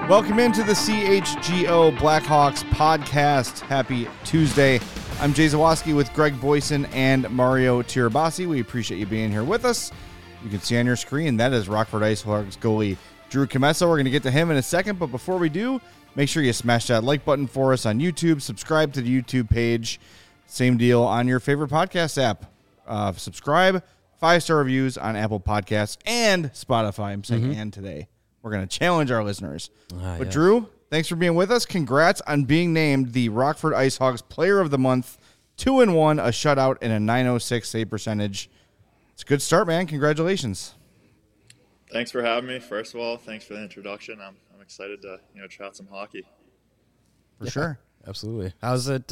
Welcome into the CHGO Blackhawks podcast. Happy Tuesday. I'm Jay Zawoski with Greg Boyson and Mario Tirabassi. We appreciate you being here with us. You can see on your screen, that is Rockford IceHogs goalie Drew Commesso. We're going to get to him in a second, but before we do, make sure you smash that like button for us on YouTube. Subscribe to the YouTube page. Same deal on your favorite podcast app. Subscribe, 5-star reviews on Apple Podcasts and Spotify. I'm saying and today. We're going to challenge our listeners. But Drew, thanks for being with us. Congrats on being named the Rockford IceHogs Player of the Month. 2-1, a shutout, and a .906 save percentage. It's a good start, man. Congratulations. Thanks for having me. First of all, thanks for the introduction. I'm excited to chat some hockey. For sure, absolutely. How's it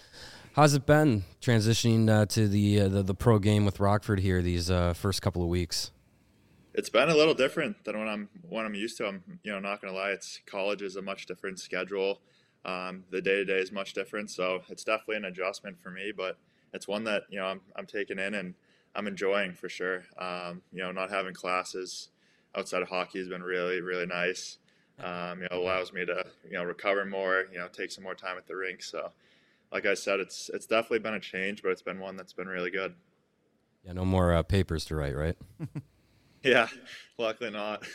been transitioning to the pro game with Rockford here these first couple of weeks? It's been a little different than what I'm used to. I'm not gonna lie. College is a much different schedule. The day-to-day is much different, so it's definitely an adjustment for me. But it's one that I'm taking in and I'm enjoying for sure. Not having classes outside of hockey has been really, really nice. Allows me to recover more. Take some more time at the rink. So, like I said, it's definitely been a change, but it's been one that's been really good. Yeah, no more papers to write, right? Yeah, luckily not.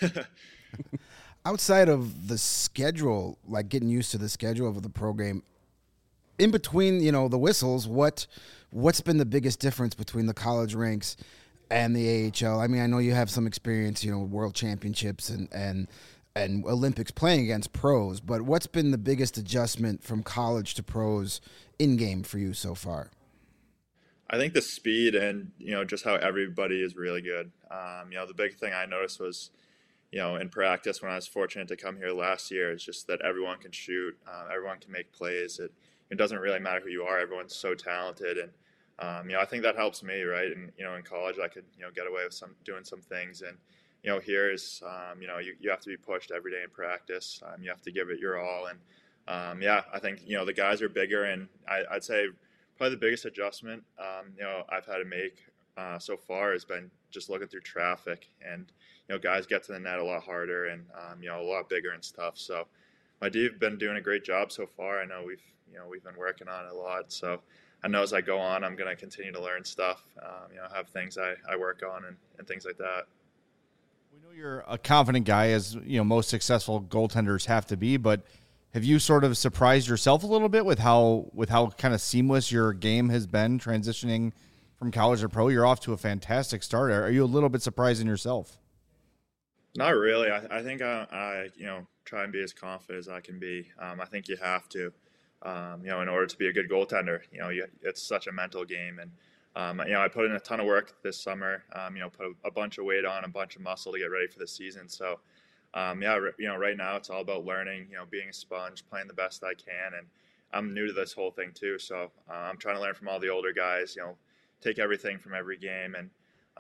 Outside of the schedule, like getting used to the schedule of the program, in between, the whistles, what's been the biggest difference between the college ranks and the AHL? I mean, I know you have some experience, world championships and Olympics playing against pros, but what's been the biggest adjustment from college to pros in-game for you so far? I think the speed and, just how everybody is really good. The big thing I noticed was, in practice when I was fortunate to come here last year, is just that everyone can shoot, everyone can make plays. It doesn't really matter who you are. Everyone's so talented. And, I think that helps me, right? And, in college I could, get away with doing some things. And, here is, you have to be pushed every day in practice. You have to give it your all. And, I think, the guys are bigger. And I'd say probably the biggest adjustment, I've had to make so far has been just looking through traffic, and guys get to the net a lot harder and a lot bigger and stuff. So my D have been doing a great job so far. I know we've been working on it a lot. So I know as I go on, I'm going to continue to learn stuff. Have things I work on and things like that. We know you're a confident guy, as most successful goaltenders have to be, but have you sort of surprised yourself a little bit with how kind of seamless your game has been transitioning from college to pro? You're off to a fantastic start. Are you a little bit surprised in yourself? Not really. I think I try and be as confident as I can be. I think you have to, in order to be a good goaltender. It's such a mental game, and I put in a ton of work this summer. Put a bunch of weight on, a bunch of muscle to get ready for the season. So. Right now it's all about learning, being a sponge, playing the best I can. And I'm new to this whole thing too. So I'm trying to learn from all the older guys, take everything from every game. And,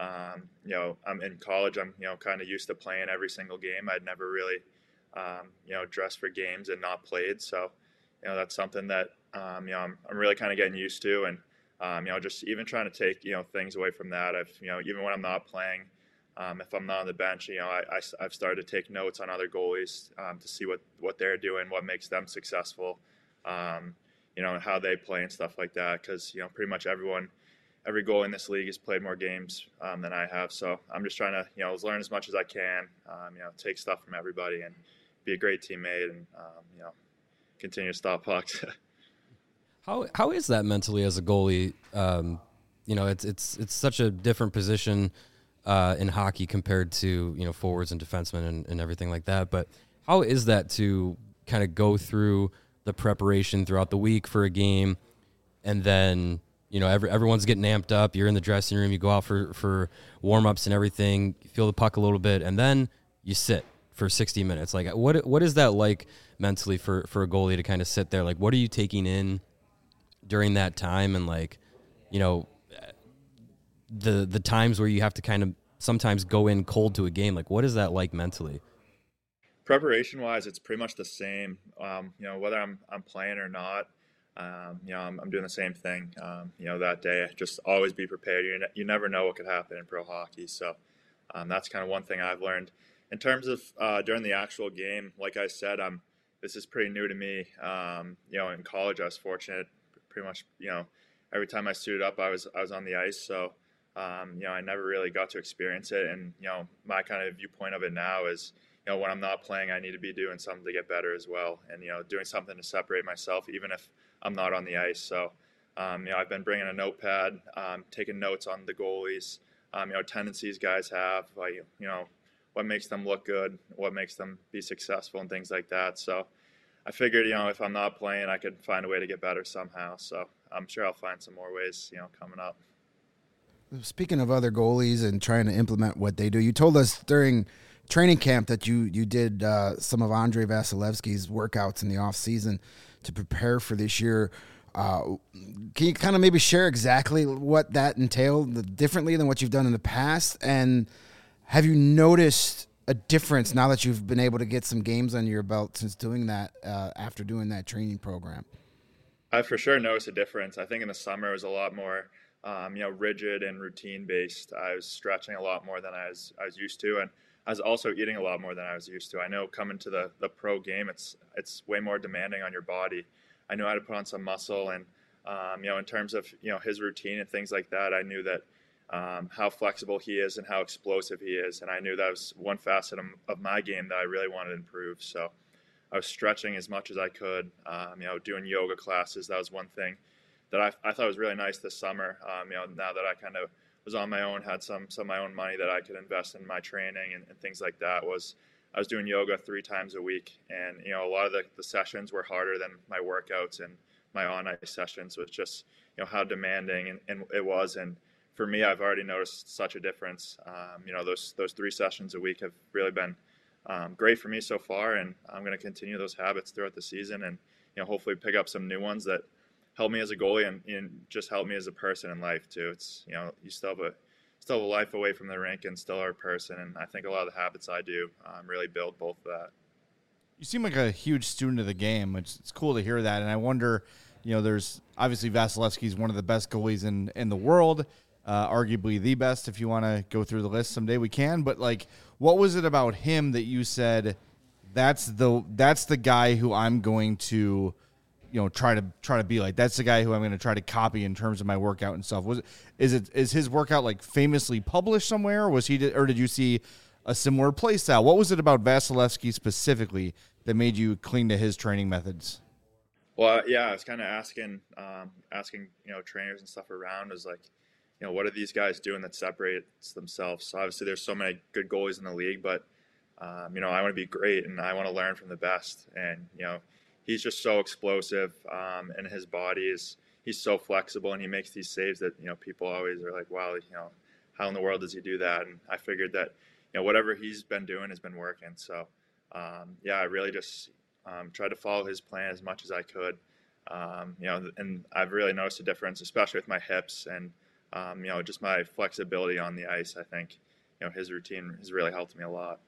I'm in college. I'm, kind of used to playing every single game. I'd never really, dressed for games and not played. So, that's something that, I'm really kind of getting used to. And, just even trying to take, things away from that. Even when I'm not playing, if I'm not on the bench, I've started to take notes on other goalies to see what they're doing, what makes them successful, and how they play and stuff like that. Because pretty much every goalie in this league has played more games than I have. So I'm just trying to learn as much as I can, take stuff from everybody and be a great teammate and continue to stop pucks. How is that mentally as a goalie? It's such a different position in hockey compared to forwards and defensemen and everything like that. But how is that to kind of go through the preparation throughout the week for a game, and then everyone's getting amped up, you're in the dressing room, you go out for warm-ups and everything, you feel the puck a little bit, and then you sit for 60 minutes? Like what is that like mentally for a goalie to kind of sit there? Like, what are you taking in during that time? And the times where you have to kind of sometimes go in cold to a game, like what is that like mentally? Preparation wise, it's pretty much the same. Whether I'm playing or not, I'm doing the same thing. That day, just always be prepared. You never know what could happen in pro hockey. So that's kind of one thing I've learned. In terms of during the actual game, like I said, this is pretty new to me. In college, I was fortunate. Pretty much, every time I suited up, I was on the ice. So, I never really got to experience it. And my kind of viewpoint of it now is, when I'm not playing, I need to be doing something to get better as well, and doing something to separate myself, even if I'm not on the ice. So, I've been bringing a notepad, taking notes on the goalies, tendencies guys have, like, what makes them look good, what makes them be successful, and things like that. So I figured, if I'm not playing, I could find a way to get better somehow. So I'm sure I'll find some more ways, coming up. Speaking of other goalies and trying to implement what they do, you told us during training camp that you did some of Andrei Vasilevsky's workouts in the off season to prepare for this year. Can you kind of maybe share exactly what that entailed differently than what you've done in the past? And have you noticed a difference now that you've been able to get some games under your belt since doing that, after doing that training program? I for sure noticed a difference. I think in the summer it was a lot more, rigid and routine based. I was stretching a lot more than I was used to, and I was also eating a lot more than I was used to. I know coming to the pro game, it's way more demanding on your body. I knew I had to put on some muscle, and in terms of his routine and things like that, I knew that how flexible he is and how explosive he is, and I knew that was one facet of my game that I really wanted to improve. So I was stretching as much as I could, doing yoga classes. That was one thing that I thought was really nice this summer. Now that I kind of was on my own, had some of my own money that I could invest in my training and things like that, I was doing yoga 3 times a week. And, a lot of the sessions were harder than my workouts and my on-ice sessions. Was just, how demanding and it was. And for me, I've already noticed such a difference. Those 3 sessions a week have really been great for me so far. And I'm going to continue those habits throughout the season and, hopefully pick up some new ones that help me as a goalie and just help me as a person in life too. It's, you still have a life away from the rink and still are a person. And I think a lot of the habits I do really build both of that. You seem like a huge student of the game. It's cool to hear that. And I wonder, there's obviously Vasilevsky's one of the best goalies in the world, arguably the best. If you want to go through the list someday, we can. But like, what was it about him that you said, that's the guy who I'm going to, try to be like? That's the guy who I'm going to try to copy in terms of my workout and stuff. Is his workout like famously published somewhere? Or did you see a similar play style? What was it about Vasilevsky specifically that made you cling to his training methods? Well, yeah, I was kind of asking trainers and stuff around, is like, what are these guys doing that separates themselves? So obviously there's so many good goalies in the league, but I want to be great and I want to learn from the best. And, he's just so explosive, and his body he's so flexible, and he makes these saves that, people always are like, wow, how in the world does he do that? And I figured that, whatever he's been doing has been working. So, I really just tried to follow his plan as much as I could. And I've really noticed a difference, especially with my hips and, just my flexibility on the ice. I think, his routine has really helped me a lot.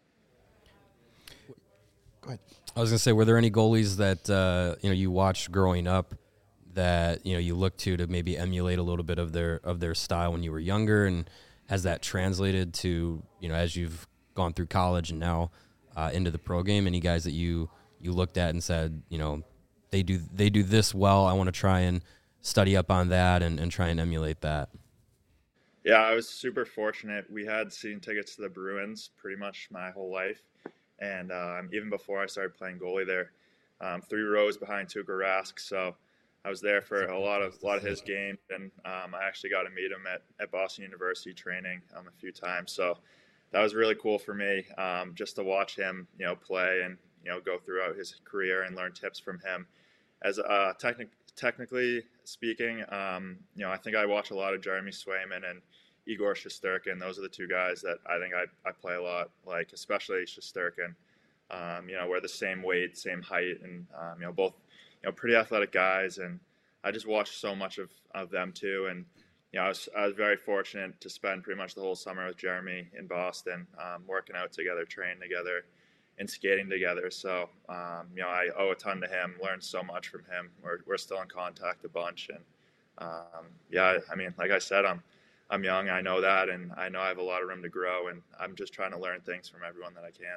Go ahead. I was going to say, were there any goalies that you watched growing up that you look to maybe emulate a little bit of their style when you were younger, and has that translated to as you've gone through college and now into the pro game? Any guys that you looked at and said, they do this well, I want to try and study up on that and try and emulate that? Yeah, I was super fortunate. We had season tickets to the Bruins pretty much my whole life. And even before I started playing goalie there, 3 rows behind Tuukka Rask. So I was there for a lot of his games, and I actually got to meet him at Boston University training a few times. So that was really cool for me, just to watch him, play and go throughout his career and learn tips from him. As technically speaking, I think I watch a lot of Jeremy Swayman and Igor Shesterkin. Those are the 2 guys that I think I play a lot, like especially Shesterkin. We're the same weight, same height, and both pretty athletic guys. And I just watched so much of them too. And I was very fortunate to spend pretty much the whole summer with Jeremy in Boston, working out together, training together, and skating together. So I owe a ton to him. Learned so much from him. We're still in contact a bunch, and like I said, I'm young. I know that, and I know I have a lot of room to grow, and I'm just trying to learn things from everyone that I can.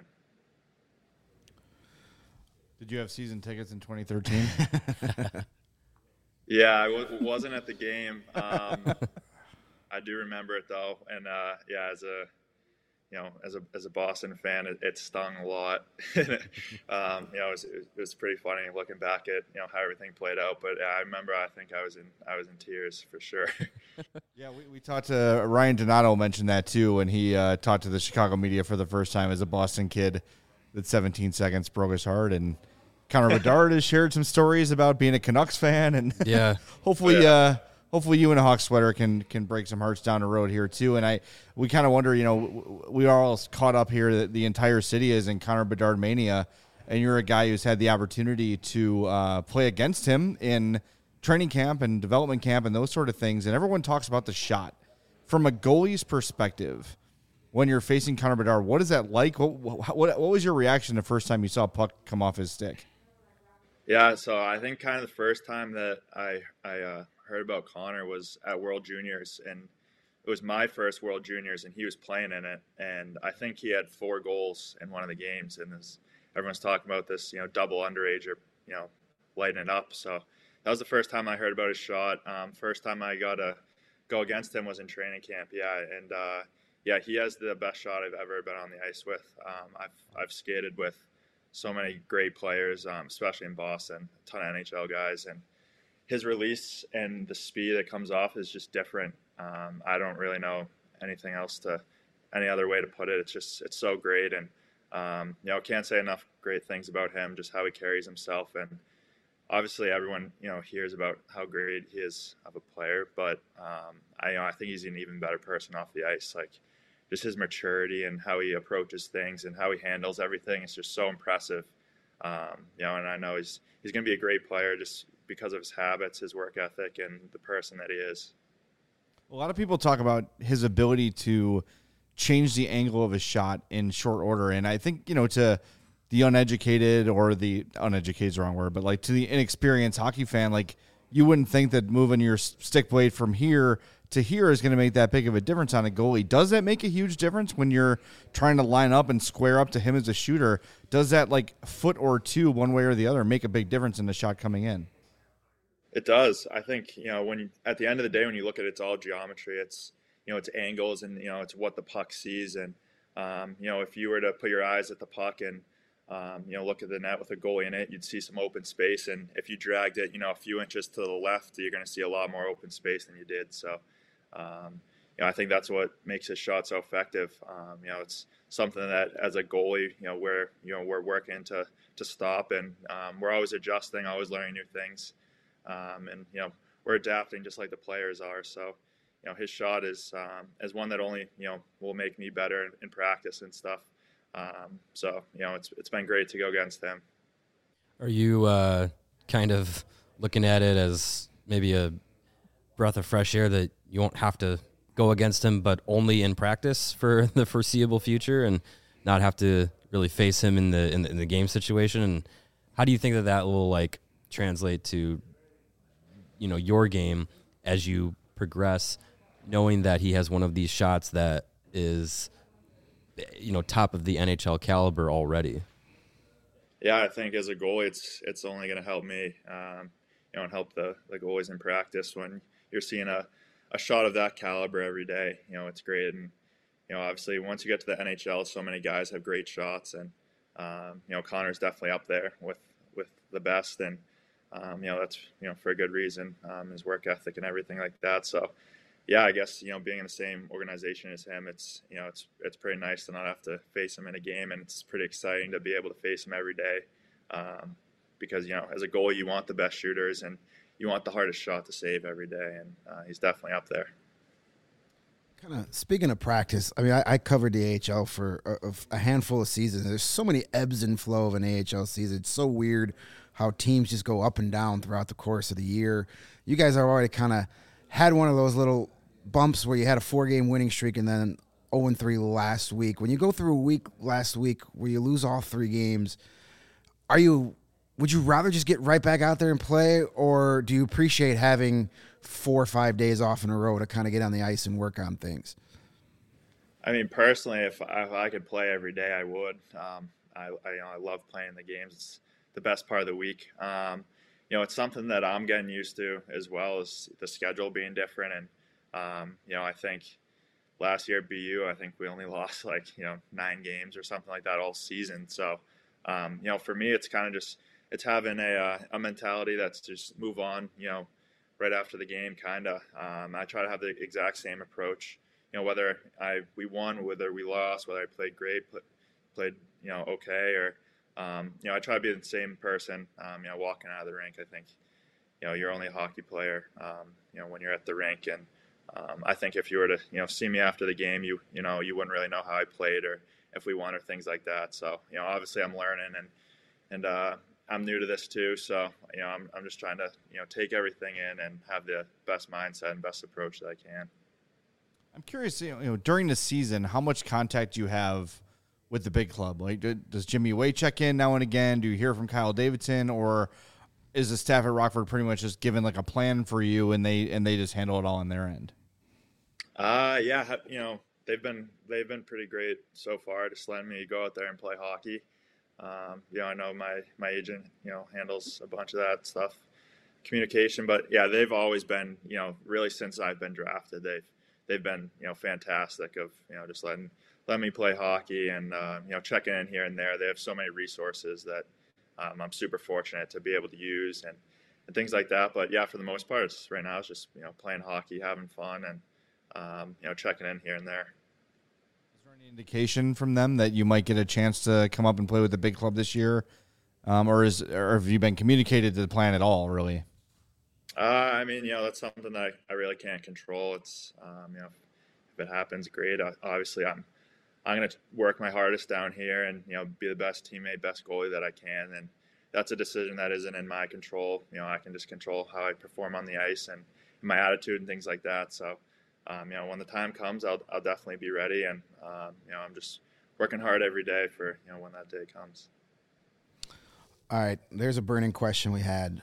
Did you have season tickets in 2013? Yeah, I wasn't at the game. I do remember it though, and yeah, as a Boston fan, it stung a lot. It was pretty funny looking back at how everything played out. But yeah, I remember. I think I was in tears for sure. Yeah, we talked to Ryan Donato, mentioned that too when he talked to the Chicago media for the first time as a Boston kid. That 17 seconds broke his heart, and Connor Bedard has shared some stories about being a Canucks fan, and yeah, hopefully you in a Hawks sweater can break some hearts down the road here too. And we kind of wonder, we are all caught up here that the entire city is in Connor Bedard mania, and you're a guy who's had the opportunity to play against him in training camp and development camp and those sort of things. And everyone talks about the shot from a goalie's perspective. When you're facing Connor Bedard, what is that like? What was your reaction the first time you saw a puck come off his stick? Yeah, so I think kind of the first time that I heard about Connor was at World Juniors, and it was my first World Juniors, and he was playing in it, and I think he had 4 goals in one of the games, and everyone's talking about this, double underager, lighting it up. So that was the first time I heard about his shot. First time I got to go against him was in training camp. Yeah, and yeah, he has the best shot I've ever been on the ice with. I've skated with so many great players, especially in Boston, a ton of NHL guys, and his release and the speed that comes off is just different. I don't really know any other way to put it. It's so great, and can't say enough great things about him, just how he carries himself, and obviously everyone hears about how great he is of a player, but I think he's an even better person off the ice. Like, just his maturity and how he approaches things and how he handles everything is just so impressive. And I know he's going to be a great player just because of his habits, his work ethic, and the person that he is. A lot of people talk about his ability to change the angle of his shot in short order. And I think, to the uneducated, or the uneducated is the wrong word, but like to the inexperienced hockey fan, like you wouldn't think that moving your stick blade from here to here is going to make that big of a difference on a goalie. Does that make a huge difference when you're trying to line up and square up to him as a shooter? Does that like foot or two, one way or the other, make a big difference in the shot coming in? It does. I think, when at the end of the day, when you look at it, it's all geometry. It's, it's angles, and, it's what the puck sees. And, if you were to put your eyes at the puck and, look at the net with a goalie in it, you'd see some open space. And if you dragged it, a few inches to the left, you're going to see a lot more open space than you did. So, I think that's what makes his shot so effective. It's something that as a goalie, we're working to stop, and we're always adjusting, always learning new things. And we're adapting just like the players are. So, his shot is one that only will make me better in practice and stuff. So it's been great to go against him. Are you kind of looking at it as maybe a breath of fresh air that you won't have to go against him, but only in practice for the foreseeable future, and not have to really face him in the game situation? And how do you think that will like translate to your game as you progress, knowing that he has one of these shots that is top of the NHL caliber already? Yeah, I think as a goalie, it's only going to help me, and help the goalies in practice. When you're seeing a shot of that caliber every day, it's great. And obviously once you get to the NHL, so many guys have great shots, and Connor's definitely up there with the best, and that's for a good reason, his work ethic and everything like that. So yeah, I guess, being in the same organization as him, it's pretty nice to not have to face him in a game, and it's pretty exciting to be able to face him every day. Because, as a goalie, you want the best shooters, and you want the hardest shot to save every day, and he's definitely up there. Kind of speaking of practice, I mean, I covered the AHL for a handful of seasons. There's so many ebbs and flow of an AHL season. It's so weird how teams just go up and down throughout the course of the year. You guys are already kind of had one of those little bumps where you had a 4-game winning streak and then 0-3 last week. When you go through a week last week where you lose all 3 games, would you rather just get right back out there and play, or do you appreciate having 4 or 5 days off in a row to kind of get on the ice and work on things? I mean, personally, if I could play every day, I would. I love playing the games. It's the best part of the week. It's something that I'm getting used to as well as the schedule being different. And, I think last year at BU, I think we only lost 9 games or something like that all season. So, for me, it's kind of just, it's having a mentality that's just move on, right after the game, kind of. I try to have the exact same approach. Whether we won, whether we lost, whether I played great, played okay, or I try to be the same person. Walking out of the rink, I think you're only a hockey player. When you're at the rink, and I think if you were to see me after the game, you wouldn't really know how I played or if we won or things like that. So obviously I'm learning and I'm new to this too. So I'm just trying to take everything in and have the best mindset and best approach that I can. I'm curious, during the season, how much contact you have with the big club? Like, does Jimmy Way check in now and again? Do you hear from Kyle Davidson, or is the staff at Rockford pretty much just given like a plan for you and they just handle it all on their end? Yeah, they've been pretty great so far, just letting me go out there and play hockey. I know my agent, handles a bunch of that stuff, communication, but yeah, they've always been, really since I've been drafted, they've been, fantastic of, just letting me play hockey and, checking in here and there. They have so many resources that I'm super fortunate to be able to use and things like that. But yeah, for the most part, right now it's just, playing hockey, having fun and, checking in here and there. Is there any indication from them that you might get a chance to come up and play with the big club this year? Or have you been communicated to the plan at all, really? I mean, that's something that I really can't control. It's, if it happens, great. Obviously, I'm going to work my hardest down here and, be the best teammate, best goalie that I can. And that's a decision that isn't in my control. I can just control how I perform on the ice and my attitude and things like that. So, when the time comes, I'll definitely be ready. And, I'm just working hard every day for, when that day comes. All right. There's a burning question we had.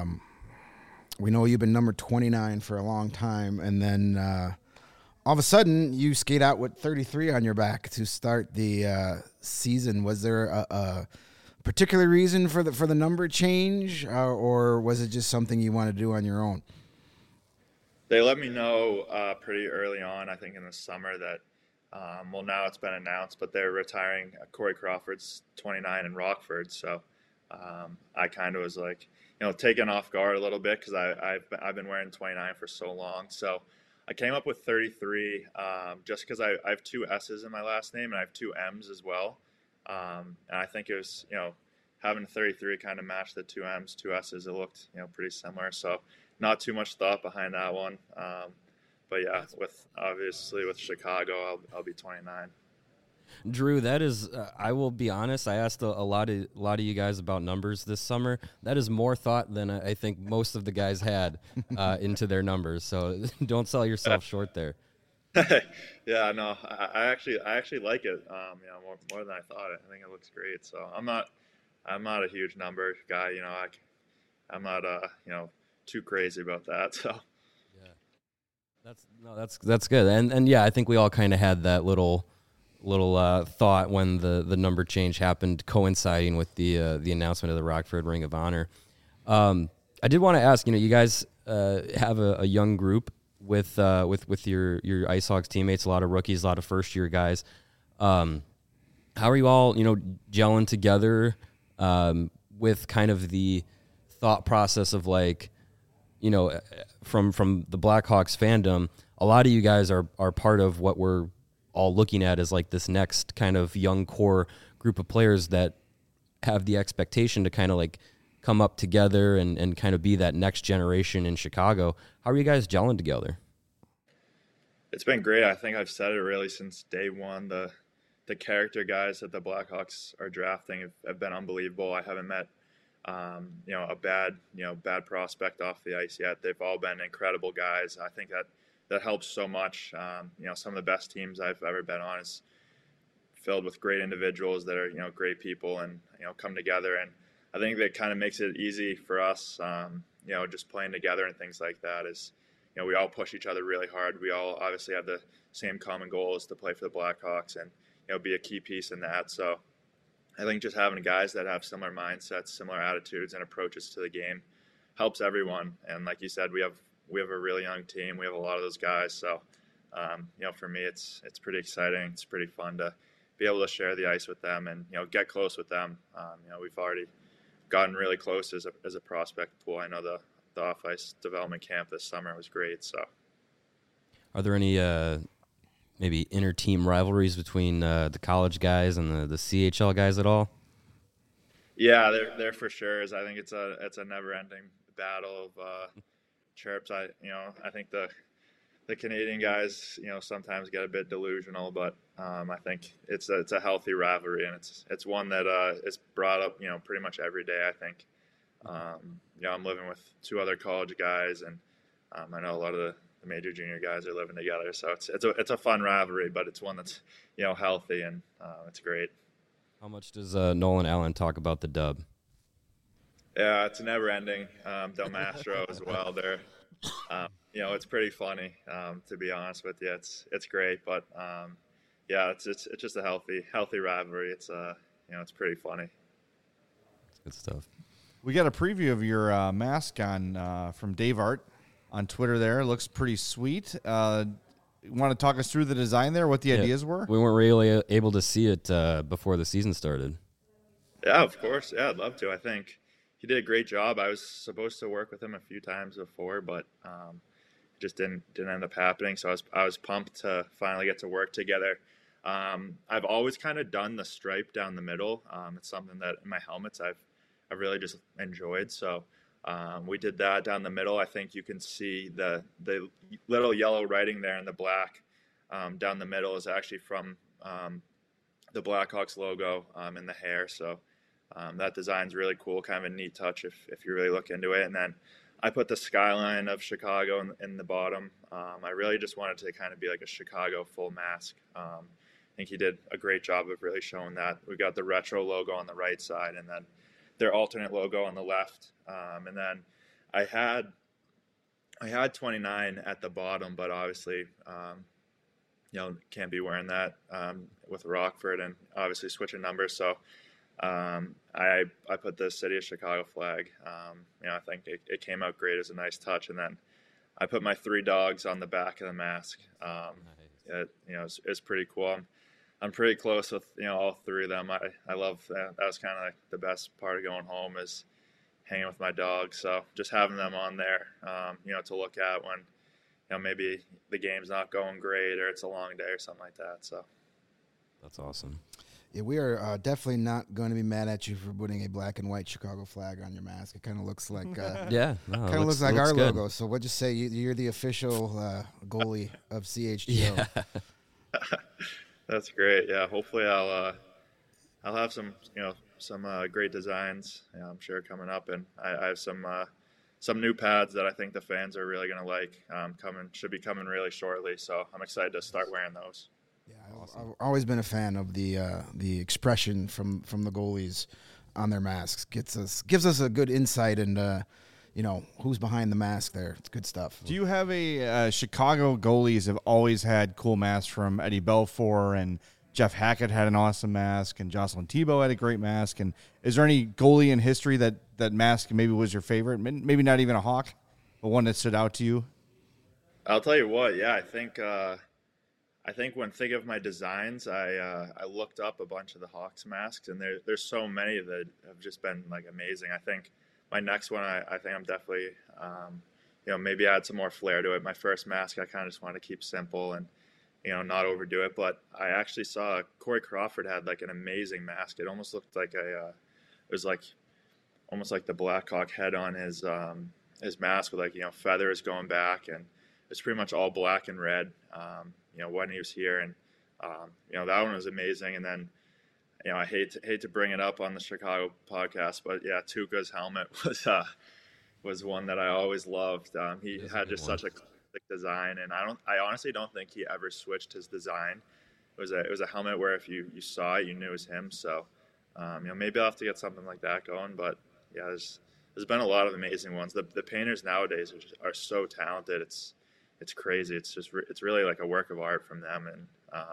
We know you've been number 29 for a long time, and then all of a sudden you skate out with 33 on your back to start the season. Was there a particular reason for the number change, or was it just something you want to do on your own? They let me know pretty early on, I think in the summer, that now it's been announced, but they're retiring Corey Crawford's 29 in Rockford. So I kind of was like, taken off guard a little bit because I've been wearing 29 for so long. So I came up with 33 just because I have 2 S's in my last name and I have 2 M's as well. And I think it was, having 33 kind of matched the 2 M's, 2 S's. It looked, pretty similar. So not too much thought behind that one. But yeah, with Chicago, I'll be 29. Drew, that is, I will be honest, I asked a lot of you guys about numbers this summer. That is more thought than I think most of the guys had into their numbers. So don't sell yourself short there. Yeah, no, I actually like it. More than I thought. I think it looks great. So I'm not a huge number guy. I'm not too crazy about that. So yeah, that's good. And yeah, I think we all kind of had that little thought when the number change happened, coinciding with the announcement of the Rockford Ring of Honor. I did want to ask, you guys have a young group with your Ice Hawks teammates, a lot of rookies, a lot of first year guys. How are you all gelling together with kind of the thought process of from the Blackhawks fandom? A lot of you guys are part of what we're all looking at as this next kind of young core group of players that have the expectation to kind of come up together and kind of be that next generation in Chicago. How are you guys gelling together? It's been great. I think I've said it really since day one. The character guys that the Blackhawks are drafting have been unbelievable. I haven't met a bad prospect off the ice yet. They've all been incredible guys. I think that helps so much. Some of the best teams I've ever been on is filled with great individuals that are, great people and, come together. And I think that kind of makes it easy for us, just playing together and things like that is, we all push each other really hard. We all obviously have the same common goal, is to play for the Blackhawks and, be a key piece in that. So I think just having guys that have similar mindsets, similar attitudes and approaches to the game helps everyone. And like you said, we have a really young team. We have a lot of those guys. So, for me, it's pretty exciting. It's pretty fun to be able to share the ice with them and, get close with them. We've already gotten really close as a prospect pool. I know the off-ice development camp this summer was great. So, are there any maybe inter-team rivalries between the college guys and the CHL guys at all? Yeah, there for sure is. I think it's a never-ending battle of chirps. I think the Canadian guys, sometimes get a bit delusional, but I think it's a healthy rivalry, and it's one that is brought up, pretty much every day. I think. I'm living with two other college guys, and I know a lot of the major junior guys are living together. So it's a fun rivalry, but it's one that's healthy, and it's great. How much does Nolan Allen talk about the Dub? Yeah, it's never ending. Del Mastro as well. They're it's pretty funny, to be honest with you. It's great, but it's just a healthy rivalry. It's it's pretty funny. Good stuff. We got a preview of your mask on from Dave Art on Twitter there. It looks pretty sweet. You want to talk us through the design there, what the ideas were? We weren't really able to see it before the season started. Yeah, of course. Yeah, I'd love to. I think he did a great job. I was supposed to work with him a few times before, but it just didn't end up happening. So I was pumped to finally get to work together. I've always kind of done the stripe down the middle. It's something that in my helmets I've really just enjoyed. So we did that down the middle. I think you can see the little yellow writing there in the black down the middle is actually from the Blackhawks logo in the hair. So that design's really cool, kind of a neat touch if you really look into it. And then I put the skyline of Chicago in the bottom. I really just wanted to kind of be like a Chicago full mask. I think he did a great job of really showing that. We got the retro logo on the right side, and then their alternate logo on the left. And then I had 29 at the bottom, but obviously, can't be wearing that with Rockford and obviously switching numbers. So I put the City of Chicago flag. I think it came out great as a nice touch. And then I put my 3 dogs on the back of the mask. Nice. It's pretty cool. I'm pretty close with all 3 of them. I love that. That was kind of like the best part of going home, is hanging with my dogs. So just having them on there, to look at when maybe the game's not going great or it's a long day or something like that. So that's awesome. Yeah, we are definitely not going to be mad at you for putting a black and white Chicago flag on your mask. It kind of looks like looks like our good logo. So we'll just say you're the official goalie of CHGO. Yeah. That's great. Yeah, hopefully I'll have some great designs. I'm sure coming up, and I have some new pads that I think the fans are really gonna like. Should be coming really shortly. So I'm excited to start wearing those. Yeah, awesome. I've always been a fan of the expression from the goalies on their masks. Gives us a good insight and who's behind the mask there. It's good stuff. Do you have Chicago goalies have always had cool masks? From Eddie Belfour, and Jeff Hackett had an awesome mask, and Jocelyn Thibault had a great mask. And is there any goalie in history that mask maybe was your favorite? Maybe not even a Hawk, but one that stood out to you? I'll tell you what. Yeah, I think when thinking of my designs, I looked up a bunch of the Hawks masks, and there's so many that have just been like amazing. I think my next one, I think I'm definitely, maybe add some more flair to it. My first mask, I kind of just wanted to keep simple and, not overdo it. But I actually saw Corey Crawford had like an amazing mask. It almost looked like it was like almost like the Blackhawk head on his mask with like, feathers going back, and it's pretty much all black and red, when he was here. And, that one was amazing. And then, I hate to bring it up on the Chicago podcast, but yeah, Tuukka's helmet was one that I always loved. He had just such a classic design, and I honestly don't think he ever switched his design. It was a helmet where if you saw it, you knew it was him. So, maybe I'll have to get something like that going. But yeah, there's been a lot of amazing ones. The painters nowadays are so talented. it's crazy. It's just it's really like a work of art from them, and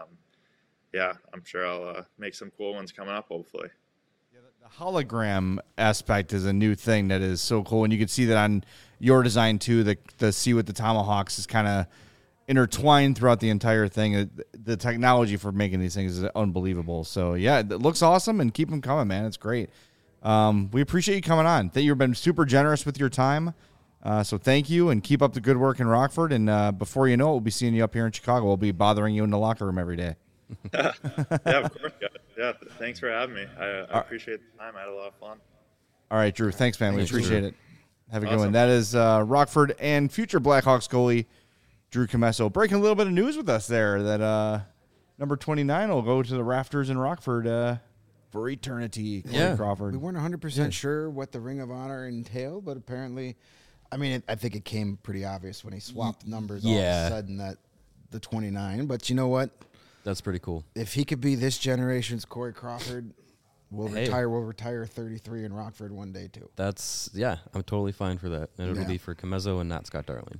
yeah, I'm sure I'll make some cool ones coming up, hopefully. Yeah, the hologram aspect is a new thing that is so cool, and you can see that on your design too. The Sea with the Tomahawks is kind of intertwined throughout the entire thing. The technology for making these things is unbelievable. So yeah, it looks awesome, and keep them coming, man. It's great. We appreciate you coming on. You've been super generous with your time. So thank you, and keep up the good work in Rockford. And before you know it, we'll be seeing you up here in Chicago. We'll be bothering you in the locker room every day. Yeah, of course. Yeah, thanks for having me. I appreciate the time. I had a lot of fun. All right, Drew. Thanks, man. Thanks, we appreciate Drew. it. Have a good Awesome. one. That is Rockford and future Blackhawks goalie Drew Commesso breaking a little bit of news with us there that number 29 will go to the rafters in Rockford for eternity. Corey Yeah. Crawford. We weren't 100% sure what the Ring of Honor entailed, but apparently, I mean, I think it came pretty obvious when he swapped numbers all of Yeah. a sudden that the 29. But you know what? That's pretty cool. If he could be this generation's Corey Crawford, we'll Hey. retire 33 in Rockford one day too. I'm totally fine for that. And it'll Yeah. be for Commesso and not Scott Darling.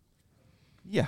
Yeah.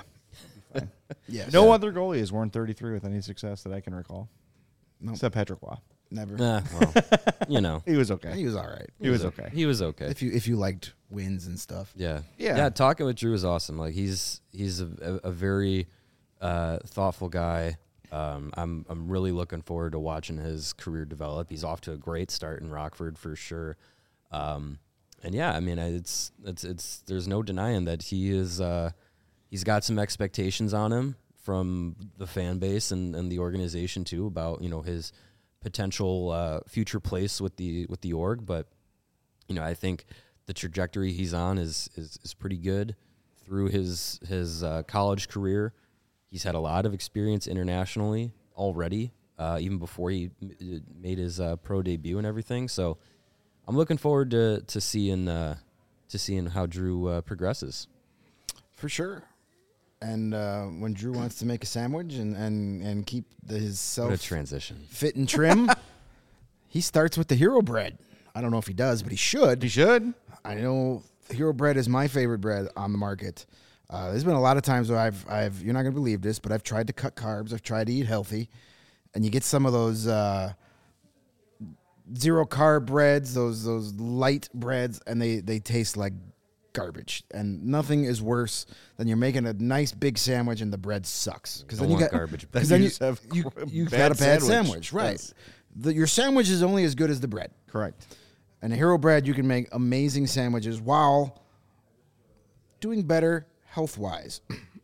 Yes. No other goalie has worn 33 with any success that I can recall. Nope. Except Patrick Waugh. Never. Well, you know. He was okay. He was all right. He was okay. He was okay. If you liked wins and stuff. Yeah. Yeah. Talking with Drew is awesome. Like he's a very thoughtful guy. I'm really looking forward to watching his career develop. He's off to a great start in Rockford for sure. And yeah, I mean, it's there's no denying that he is he's got some expectations on him from the fan base and the organization too about, you know, his potential future place with the org, but you know, I think the trajectory he's on is pretty good through his college career. He's had a lot of experience internationally already, even before he made his pro debut and everything. So I'm looking forward to seeing how Drew progresses. For sure. And when Drew wants to make a sandwich and keep his What a self transition! fit and trim, he starts with the Hero Bread. I don't know if he does, but he should. He should. I know Hero Bread is my favorite bread on the market. There's been a lot of times where I've you're not going to believe this, but I've tried to cut carbs. I've tried to eat healthy, and you get some of those zero carb breads, those light breads, and they taste like garbage. And nothing is worse than you're making a nice big sandwich and the bread sucks because Don't then you want got garbage because bread. then You just have you bad got a bad sandwich. sandwich, right? Yes. Your sandwich is only as good as the bread. Correct. And a Hero Bread, you can make amazing sandwiches while doing better health-wise.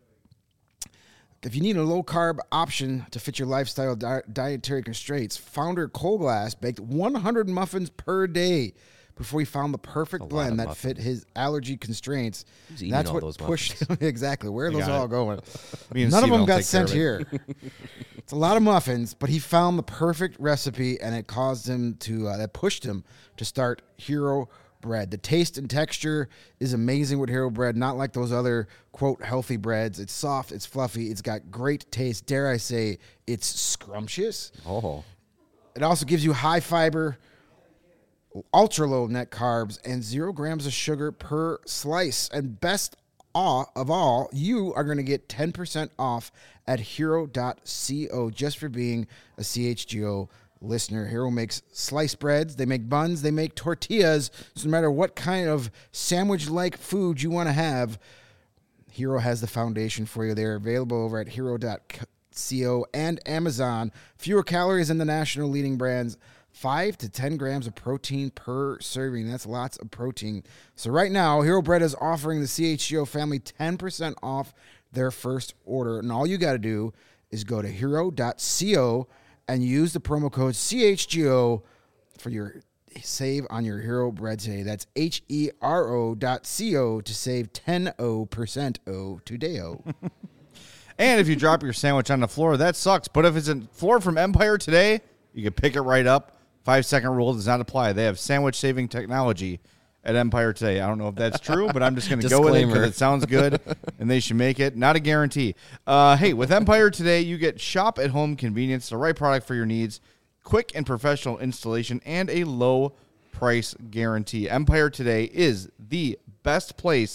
If you need a low-carb option to fit your lifestyle dietary constraints, founder Cole Glass baked 100 muffins per day before he found the perfect lot blend of that fit his allergy constraints. Who's eating That's all what those pushed exactly. Where are those got all it. going? Me and None of Steven them will got take care sent of it. here. It's a lot of muffins, but he found the perfect recipe, and it caused him to that pushed him to start Hero Bread. The taste and texture is amazing with Hero Bread, not like those other quote healthy breads. It's soft, it's fluffy, it's got great taste. Dare I say, it's scrumptious. Oh, It also gives you high fiber, ultra low net carbs, and 0 grams of sugar per slice. And best of all, you are going to get 10% off at hero.co just for being a CHGO listener. Hero makes sliced breads, they make buns, they make tortillas. So no matter what kind of sandwich-like food you want to have, Hero has the foundation for you. They're available over at hero.co and Amazon. Fewer calories than the national leading brands. 5 to 10 grams of protein per serving. That's lots of protein. So right now, Hero Bread is offering the CHGO family 10% off their first order. And all you got to do is go to hero.co and use the promo code CHGO for your save on your Hero Bread today. That's HERO.co to save 10% today. And if you drop your sandwich on the floor, that sucks. But if it's a floor from Empire Today, you can pick it right up. 5-second rule does not apply. They have sandwich-saving technology at Empire Today. I don't know if that's true, but I'm just going to go with it because Disclaimer. it sounds good, and they should make it. Not a guarantee. Hey, with Empire Today, you get shop-at-home convenience, the right product for your needs, quick and professional installation, and a low price guarantee. Empire Today is the best place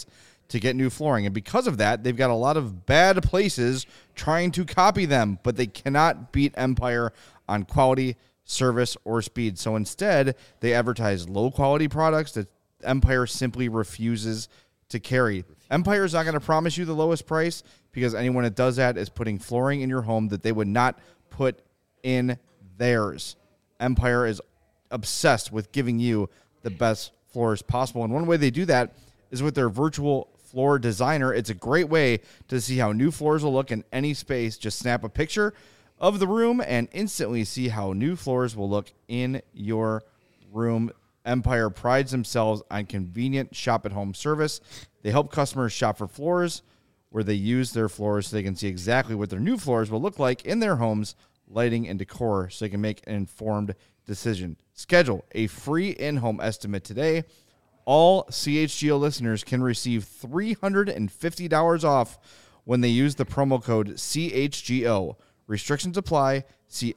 to get new flooring. And because of that, they've got a lot of bad places trying to copy them, but they cannot beat Empire on quality, service, or speed. So instead, they advertise low-quality products that Empire simply refuses to carry. Empire is not going to promise you the lowest price because anyone that does that is putting flooring in your home that they would not put in theirs. Empire is obsessed with giving you the best floors possible. And one way they do that is with their virtual floor designer. It's a great way to see how new floors will look in any space. Just snap a picture of the room and instantly see how new floors will look in your room. Empire prides themselves on convenient shop-at-home service. They help customers shop for floors where they use their floors so they can see exactly what their new floors will look like in their homes, lighting and decor, so they can make an informed decision. Schedule a free in-home estimate today. All CHGO listeners can receive $350 off when they use the promo code CHGO. Restrictions apply. See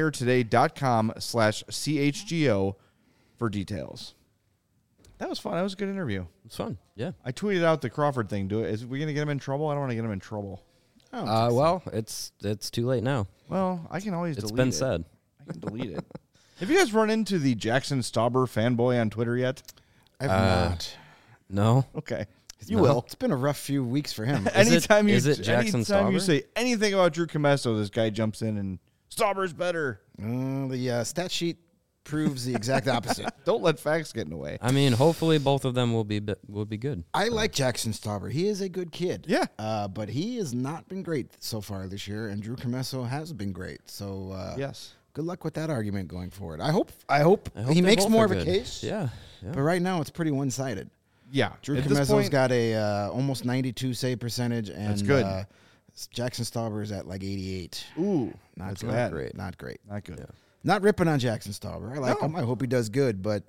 empiretoday.com/CHGO for details. That was fun. That was a good interview. It's fun. Yeah. I tweeted out the Crawford thing. Is we gonna get him in trouble? I don't want to get him in trouble. Well, it's too late now. Well, I can always delete it. It's been said. I can delete it. Have you guys run into the Jackson Stauber fanboy on Twitter yet? I've not. No. Okay. You will. It's been a rough few weeks for him. Anytime you Jackson Stauber? say anything about Drew Comesso, this guy jumps in and Stauber's better. The stat sheet proves the exact opposite. Don't let facts get in the way. I mean, hopefully both of them will be good. I like Jackson Stauber. He is a good kid. Yeah. But he has not been great so far this year, and Drew Comesso has been great. So Yes. good luck with that argument going forward. I hope he they makes both more are of a good. case. Yeah. But right now it's pretty one-sided. Yeah. Drew At this Comesso's point, got a almost 92 save percentage, and That's good. Jackson Stauber is at like 88. Ooh, Not that's good. bad. great. Not great. Not good. Not ripping on Jackson Stauber. I like No. him. I hope he does good, but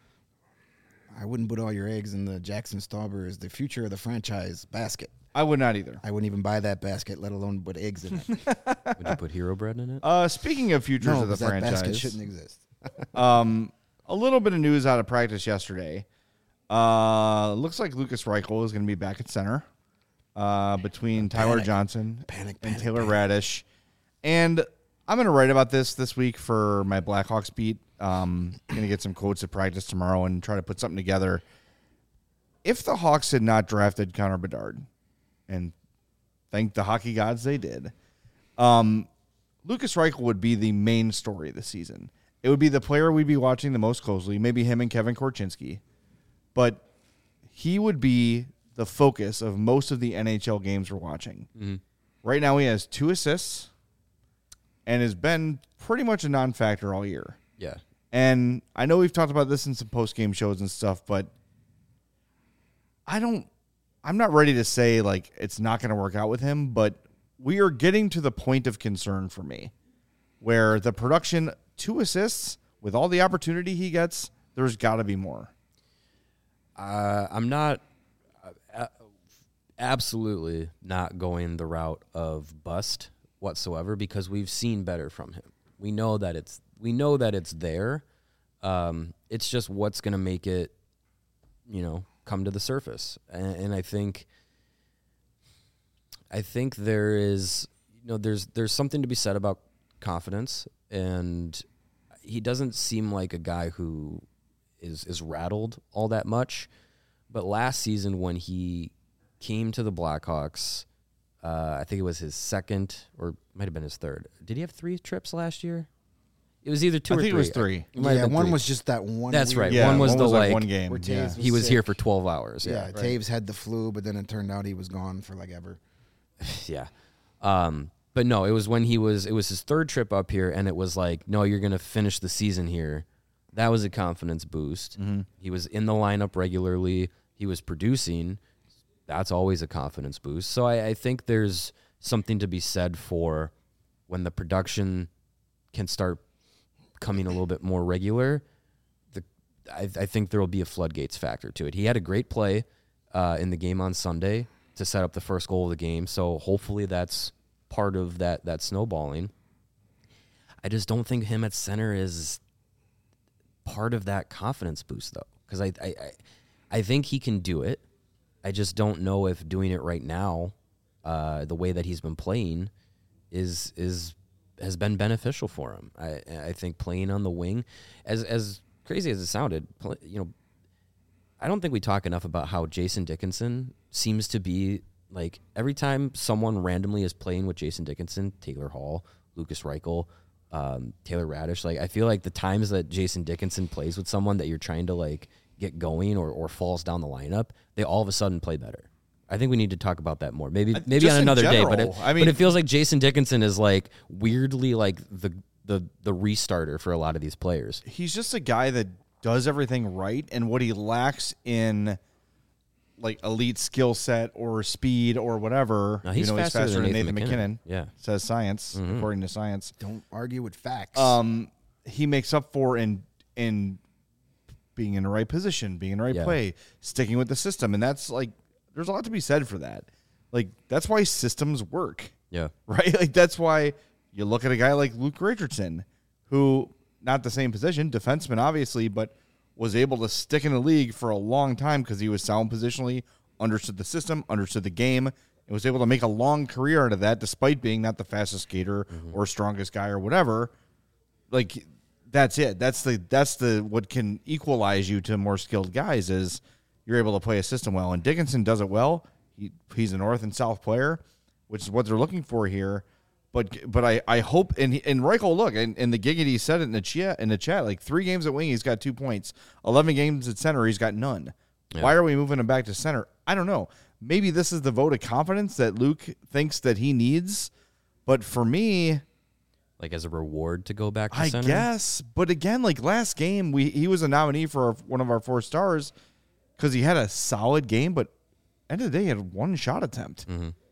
I wouldn't put all your eggs in the Jackson Stauber is the future of the franchise basket. I would not either. I wouldn't even buy that basket, let alone put eggs in it. Would you put Hero Bread in it? Speaking of futures No, of the 'cause that basket franchise, shouldn't exist. a little bit of news out of practice yesterday. Looks like Lucas Reichel is going to be back at center between Tyler Johnson and Taylor Radish. And I'm going to write about this week for my Blackhawks beat. Going to get some quotes at practice tomorrow and try to put something together. If the Hawks had not drafted Connor Bedard, and thank the hockey gods they did, Lucas Reichel would be the main story this season. It would be the player we'd be watching the most closely, maybe him and Kevin Korchinski. But he would be the focus of most of the NHL games we're watching. Mm-hmm. Right now he has 2 assists and has been pretty much a non-factor all year. Yeah. And I know we've talked about this in some post-game shows and stuff, but I'm not ready to say like it's not going to work out with him, but we are getting to the point of concern for me where the production, 2 assists with all the opportunity he gets, there's got to be more. I'm not absolutely not going the route of bust whatsoever because we've seen better from him. We know that it's there. It's just what's going to make it, come to the surface. And I think there is, there's something to be said about confidence, and he doesn't seem like a guy who is rattled all that much. But last season when he came to the Blackhawks, I think it was his second or might have been his third. Did he have 3 trips last year? It was either 2 or 3. I think it was 3. Yeah, one was just that one. That's right. Yeah, one was one game. where Taves Yeah. was he was sick. here for 12 hours. Yeah, Yeah. Taves had the flu, but then it turned out he was gone for like ever. Yeah. But no, it was his 3rd trip up here, and it was like, no, you're going to finish the season here. That was a confidence boost. Mm-hmm. He was in the lineup regularly. He was producing. That's always a confidence boost. So I think there's something to be said for when the production can start coming a little bit more regular. I think there will be a floodgates factor to it. He had a great play in the game on Sunday to set up the first goal of the game. So hopefully that's part of that snowballing. I just don't think him at center is part of that confidence boost, though, because I think he can do it. I just don't know if doing it right now, the way that he's been playing, has been beneficial for him. I think playing on the wing, as crazy as it sounded, I don't think we talk enough about how Jason Dickinson seems to be like every time someone randomly is playing with Jason Dickinson, Taylor Hall, Lucas Reichel, Taylor Radish. Like I feel like the times that Jason Dickinson plays with someone that you're trying to like get going or falls down the lineup, they all of a sudden play better. I think we need to talk about that more. Maybe on another day. But it feels like Jason Dickinson is like weirdly like the restarter for a lot of these players. He's just a guy that does everything right, and what he lacks in like elite skill set or speed or whatever. Now, he's faster than Nathan McKinnon. Yeah, says science, according to science. Don't argue with facts. He makes up for in being in the right position, being in the right play, sticking with the system, and that's like there's a lot to be said for that. Like that's why systems work. Yeah, right. Like that's why you look at a guy like Luke Richardson, who not the same position, defenseman obviously, but was able to stick in the league for a long time because he was sound positionally, understood the system, understood the game, and was able to make a long career out of that despite being not the fastest skater or strongest guy or whatever. Like that's it. That's the what can equalize you to more skilled guys is you're able to play a system well. And Dickinson does it well. He's a north and south player, which is what they're looking for here. But I hope and Reichel, look, and the Giggity said it in the chat, like 3 games at wing, he's got 2 points. 11 games at center, he's got none. Yeah. Why are we moving him back to center? I don't know. Maybe this is the vote of confidence that Luke thinks that he needs. But for me, like as a reward to go back to center? I guess. But again, like last game, he was a nominee for one of our 4 stars because he had a solid game, but end of the day, he had 1 shot attempt.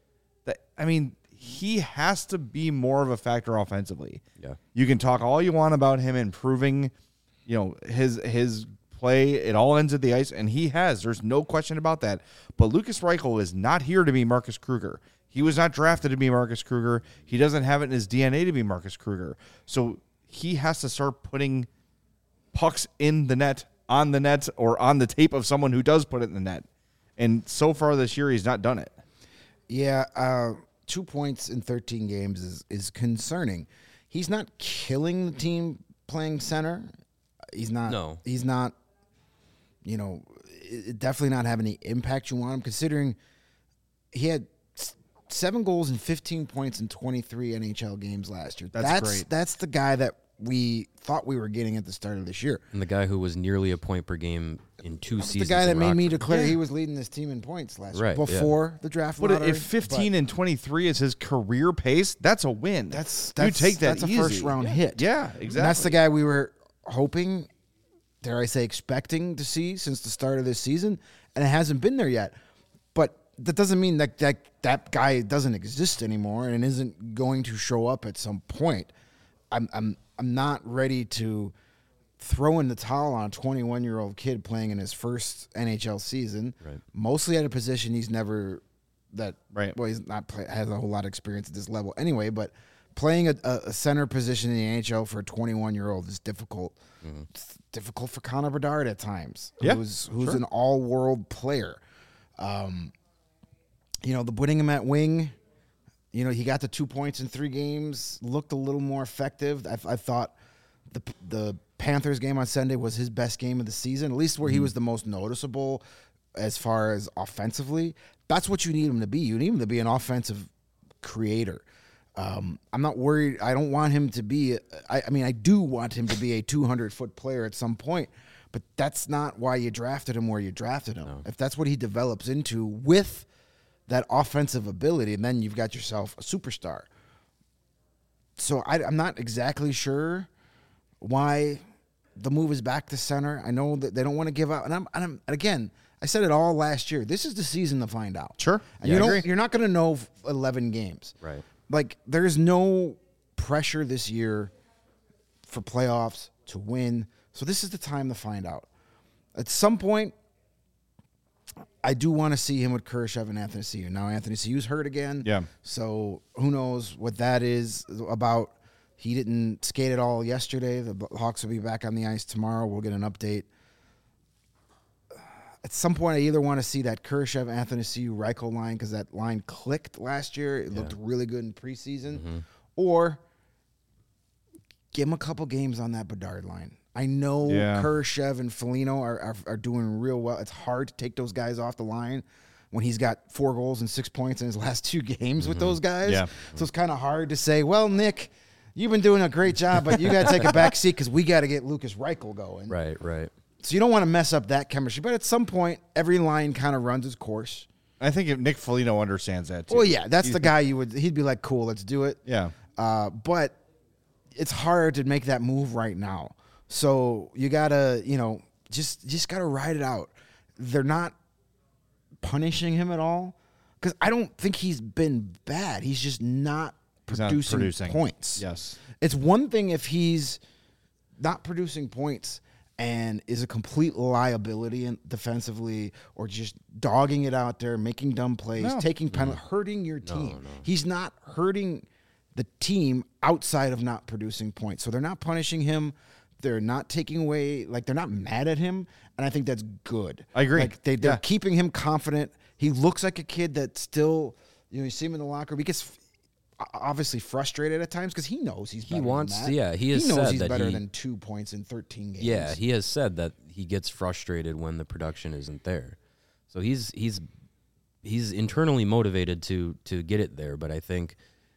He has to be more of a factor offensively. Yeah. You can talk all you want about him improving, his play. It all ends at the ice, and he has. There's no question about that. But Lucas Reichel is not here to be Marcus Kruger. He was not drafted to be Marcus Kruger. He doesn't have it in his DNA to be Marcus Kruger. So he has to start putting pucks in the net, on the net, or on the tape of someone who does put it in the net. And so far this year, he's not done it. Yeah, 2 points in 13 games is concerning. He's not killing the team playing center. He's not. No. He's not. Definitely not having any impact you want him. Considering he had 7 goals and 15 points in 23 NHL games last year. That's great. That's the guy that we thought we were getting at the start of this year. And the guy who was nearly a point per game in 2 seasons. The guy that made me declare he was leading this team in points last year before the draft lottery. But if 15 and 23 is his career pace, that's a win. That's you take that that's easy. A first round hit. Yeah, exactly. And that's the guy we were hoping, dare I say, expecting to see since the start of this season, and it hasn't been there yet. But that doesn't mean that guy doesn't exist anymore and isn't going to show up at some point. I'm not ready to throw in the towel on a 21-year-old kid playing in his first NHL season, mostly at a position he's never well, he's not has a whole lot of experience at this level anyway, but playing a center position in the NHL for a 21-year-old is difficult. It's difficult for Connor Bedard at times, who's an all-world player. Putting him at wing, he got the 2 points in 3 games, looked a little more effective. I thought the Panthers game on Sunday was his best game of the season, at least where he was the most noticeable as far as offensively. That's what you need him to be. You need him to be an offensive creator. I'm not worried. I don't want him to be I do want him to be a 200-foot player at some point, but that's not why you drafted him where you drafted him. No. If that's what he develops into with that offensive ability, and then you've got yourself a superstar. So I'm not exactly sure why the move is back to center. I know that they don't want to give up, and again, I said it all last year. This is the season to find out. Sure, and you're not going to know 11 games. Right. Like there's no pressure this year for playoffs to win. So this is the time to find out. At some point, I do want to see him with Kurashev and Anthony Ciu. Now Anthony Ciu's hurt again. Yeah. So who knows what that is about. He didn't skate at all yesterday. The Hawks will be back on the ice tomorrow. We'll get an update. at some point, I either want to see that Kurashev, Athanasiou, Reichel line because that line clicked last year. It looked really good in preseason. Or give him a couple games on that Bedard line. I know Kurashev and Foligno are doing real well. It's hard to take those guys off the line when he's got 4 goals and 6 points in his last 2 games with those guys. Yeah. So it's kind of hard to say, well, Nick, you've been doing a great job, but you got to take a back seat because we got to get Lucas Reichel going. Right. So you don't want to mess up that chemistry. But at some point, every line kind of runs its course. I think if Nick Foligno understands that too. Well, yeah, that's the guy he'd be like, cool, let's do it. Yeah. But it's hard to make that move right now. So you gotta, just gotta ride it out. They're not punishing him at all because I don't think he's been bad. He's just not producing points. Yes. It's one thing if he's not producing points and is a complete liability defensively or just dogging it out there, making dumb plays, taking penalties, hurting your team. No. He's not hurting the team outside of not producing points. So they're not punishing him. They're not taking away, they're not mad at him, and I think that's good. I agree. They're keeping him confident. He looks like a kid that still, you see him in the locker room. He gets obviously frustrated at times because he knows he's better than that. He has knows said he's that better than 2 points in 13 games. Yeah, he has said that he gets frustrated when the production isn't there. So he's internally motivated to get it there, but I think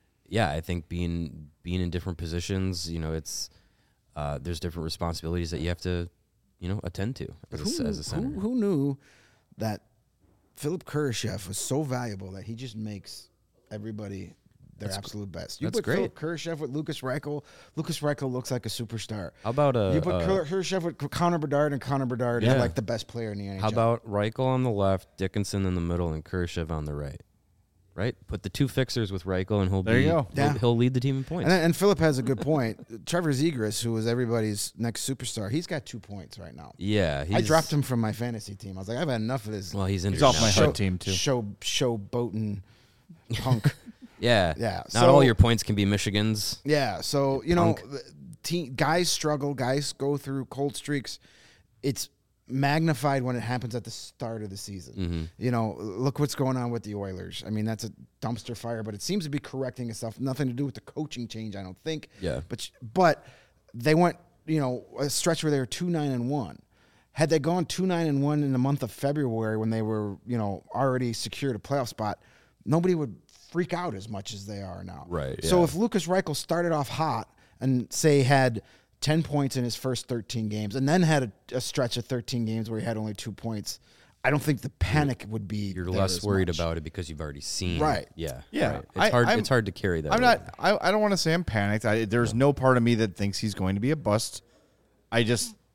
being in different positions, it's there's different responsibilities that you have to, attend to as a center. Who knew that Philip Kurashev was so valuable that he just makes everybody their absolute best? You put Philip Kurashev with Lucas Reichel. Lucas Reichel looks like a superstar. How about you put Kurashev with Connor Bedard, and Connor Bedard is like the best player in the NHL. How about Reichel on the left, Dickinson in the middle, and Kurashev on the right? Right, put the 2 fixers with Reichel, and he'll lead the team in points. And Philip has a good point. Trevor Zegras, who was everybody's next superstar, he's got 2 points right now. Yeah, I dropped him from my fantasy team. I was like, I've had enough of this. Well, he's off my HUD team too. Showboating punk. Yeah. Not all your points can be Michigan's. Yeah, so guys struggle. Guys go through cold streaks. It's magnified when it happens at the start of the season. Look what's going on with the Oilers. I mean, that's a dumpster fire, but it seems to be correcting itself. Nothing to do with the coaching change, I don't think. Yeah. But they went, a stretch where they were 2-9-1. Had they gone 2-9-1 in the month of February when they were, already secured a playoff spot, nobody would freak out as much as they are now. Right. So if Lucas Reichel started off hot and say had 10 points in his first 13 games and then had a stretch of 13 games where he had only 2 points, I don't think the panic would be. You're less worried about it because you've already seen. Right. Yeah. Yeah. Right. It's hard to carry that. I don't want to say I'm panicked. There's no part of me that thinks he's going to be a bust. I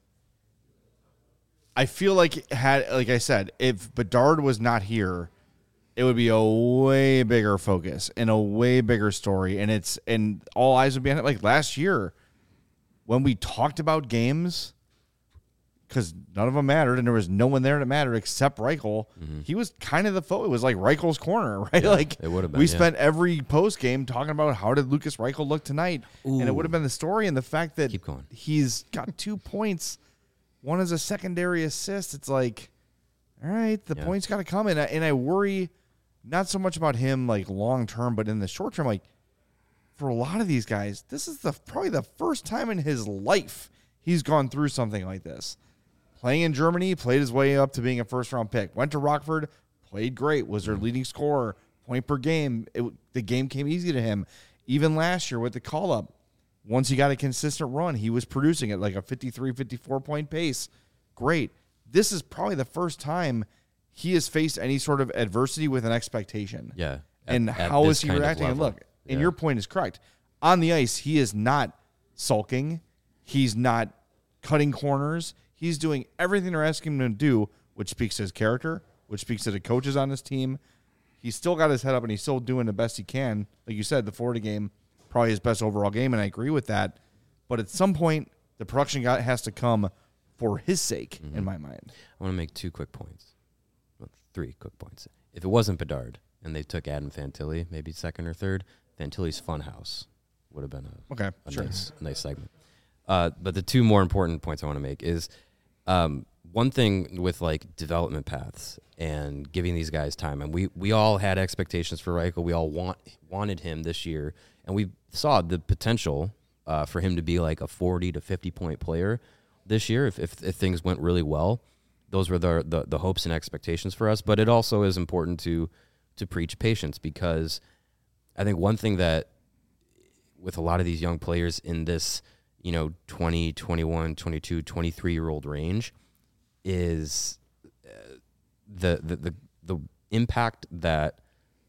feel like like I said, if Bedard was not here, it would be a way bigger focus and a way bigger story. And all eyes would be on it. Like last year, when we talked about games, because none of them mattered, and there was no one there that mattered except Reichel, he was kind of the it was like Reichel's corner, right? Yeah, like it would have been. We spent every post game talking about how did Lucas Reichel look tonight, and it would have been the story and the fact that he's got 2 points, one is a secondary assist. It's like, all right, the points got to come, and I worry not so much about him like long term, but in the short term, like. For a lot of these guys, this is probably the first time in his life he's gone through something like this. Playing in Germany, played his way up to being a first-round pick. Went to Rockford, played great, was their leading scorer, point per game. The game came easy to him. Even last year with the call-up, once he got a consistent run, he was producing at like a 53, 54-point pace. Great. This is probably the first time he has faced any sort of adversity with an expectation. Yeah. And how is he reacting? And look, and your point is correct. On the ice, he is not sulking. He's not cutting corners. He's doing everything they're asking him to do, which speaks to his character, which speaks to the coaches on his team. He's still got his head up, and he's still doing the best he can. Like you said, the Florida game, probably his best overall game, and I agree with that. But at some point, the production has to come for his sake, in my mind. I want to make 2 quick points. Well, 3 quick points. If it wasn't Bedard and they took Adam Fantilli, maybe second or third, Fantilli's Funhouse would have been a nice segment. But the 2 more important points I want to make is one thing with like development paths and giving these guys time, and we all had expectations for Reichel. We all wanted him this year, and we saw the potential for him to be like a 40 to 50 point player this year if things went really well. Those were the hopes and expectations for us. But it also is important to preach patience, because I think one thing that with a lot of these young players in this, 20, 21, 22, 23-year-old range is the impact that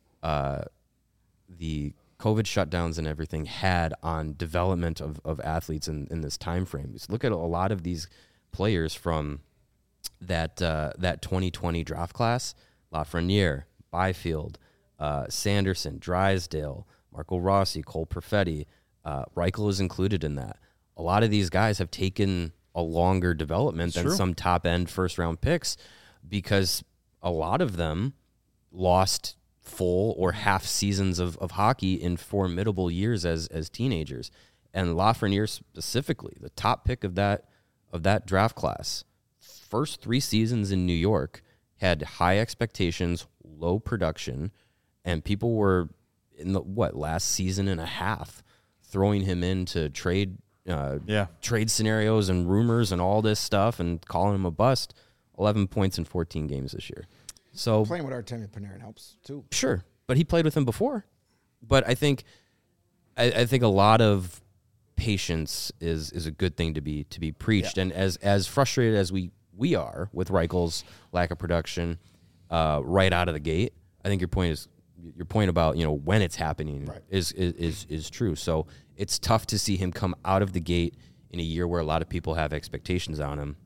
the COVID shutdowns and everything had on development of athletes in this time frame. Just look at a lot of these players from that 2020 draft class: Lafreniere, Byfield, Sanderson, Drysdale, Marco Rossi, Cole Perfetti. Reichel is included in that. A lot of these guys have taken a longer development than some top-end first-round picks, because a lot of them lost full or half seasons of hockey in formidable years as teenagers. And Lafreniere specifically, the top pick of that draft class, first 3 seasons in New York, had high expectations, low production, and people were in the last season and a half throwing him into trade scenarios and rumors and all this stuff and calling him a bust. 11 points in 14 games this year. So playing with Artemi Panarin helps too. Sure, but he played with him before. But I think a lot of patience is a good thing to be preached. Yeah. And as frustrated as we are with Reichel's lack of production right out of the gate, I think your point about when it's happening is true. So it's tough to see him come out of the gate in a year where a lot of people have expectations on him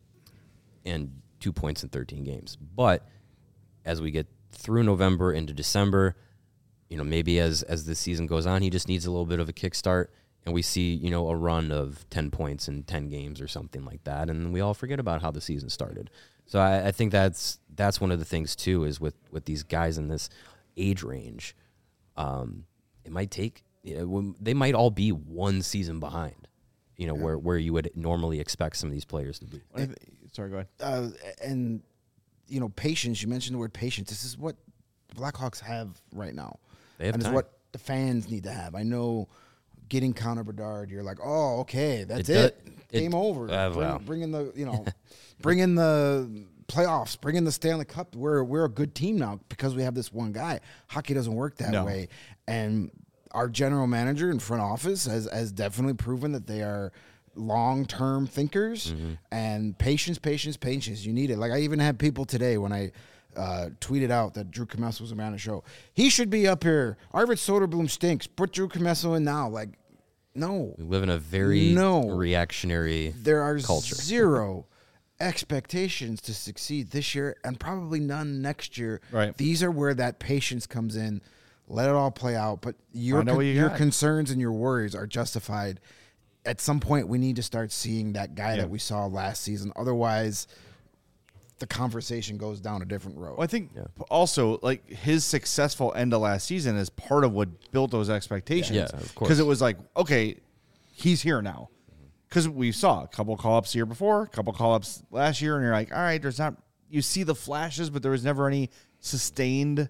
and 2 points in 13 games. But as we get through November into December, maybe as the season goes on, he just needs a little bit of a kickstart, and we see, a run of 10 points in 10 games or something like that, and we all forget about how the season started. So I think that's one of the things too, is with these guys in this age range, it might take, they might all be one season behind, where you would normally expect some of these players to be. Sorry, go ahead. And patience. You mentioned the word patience. This is what the Blackhawks have right now. They have and time. It's what the fans need to have. I know getting Connor Bedard, you're like, oh, okay, that's it. Game over. Bring in the, bring in the playoffs, bring in the Stanley Cup. We're a good team now because we have this one guy. Hockey doesn't work that way. And our general manager and front office has definitely proven that they are long-term thinkers, and patience. You need it. Like, I even had people today when I tweeted out that Drew Commesso was a man of the show. He should be up here. Arvid Soderblom stinks. Put Drew Commesso in now. Like, no. We live in a very reactionary There are culture. Zero expectations to succeed this year and probably none next year. Right. These are where that patience comes in. Let it all play out. But your concerns and your worries are justified. At some point, we need to start seeing that guy that we saw last season. Otherwise, the conversation goes down a different road. Well, I think also, like, his successful end of last season is part of what built those expectations. Yeah, of course. Because it was like, okay, he's here now. Because we saw a couple call-ups the year before, a couple call-ups last year, and you're like, all right, you see the flashes, but there was never any sustained,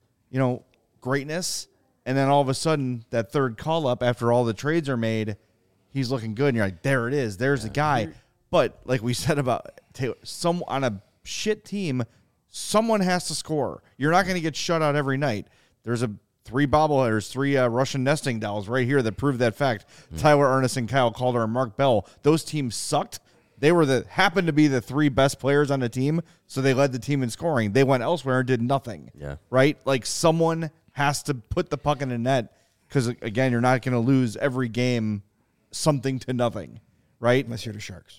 greatness. And then all of a sudden, that third call-up after all the trades are made, he's looking good, and you're like, there it is. There's the guy. But like we said about Taylor, on a shit team, someone has to score. You're not going to get shut out every night. There's 3 bobbleheaders, 3 Russian nesting dolls right here that prove that fact. Tyler Ernest, Kyle Calder, and Mark Bell. Those teams sucked. They happened to be the 3 best players on the team, so they led the team in scoring. They went elsewhere and did nothing. Yeah. Right? Like, someone has to put the puck in the net because, again, you're not going to lose every game something to nothing, right? Unless you're the Sharks.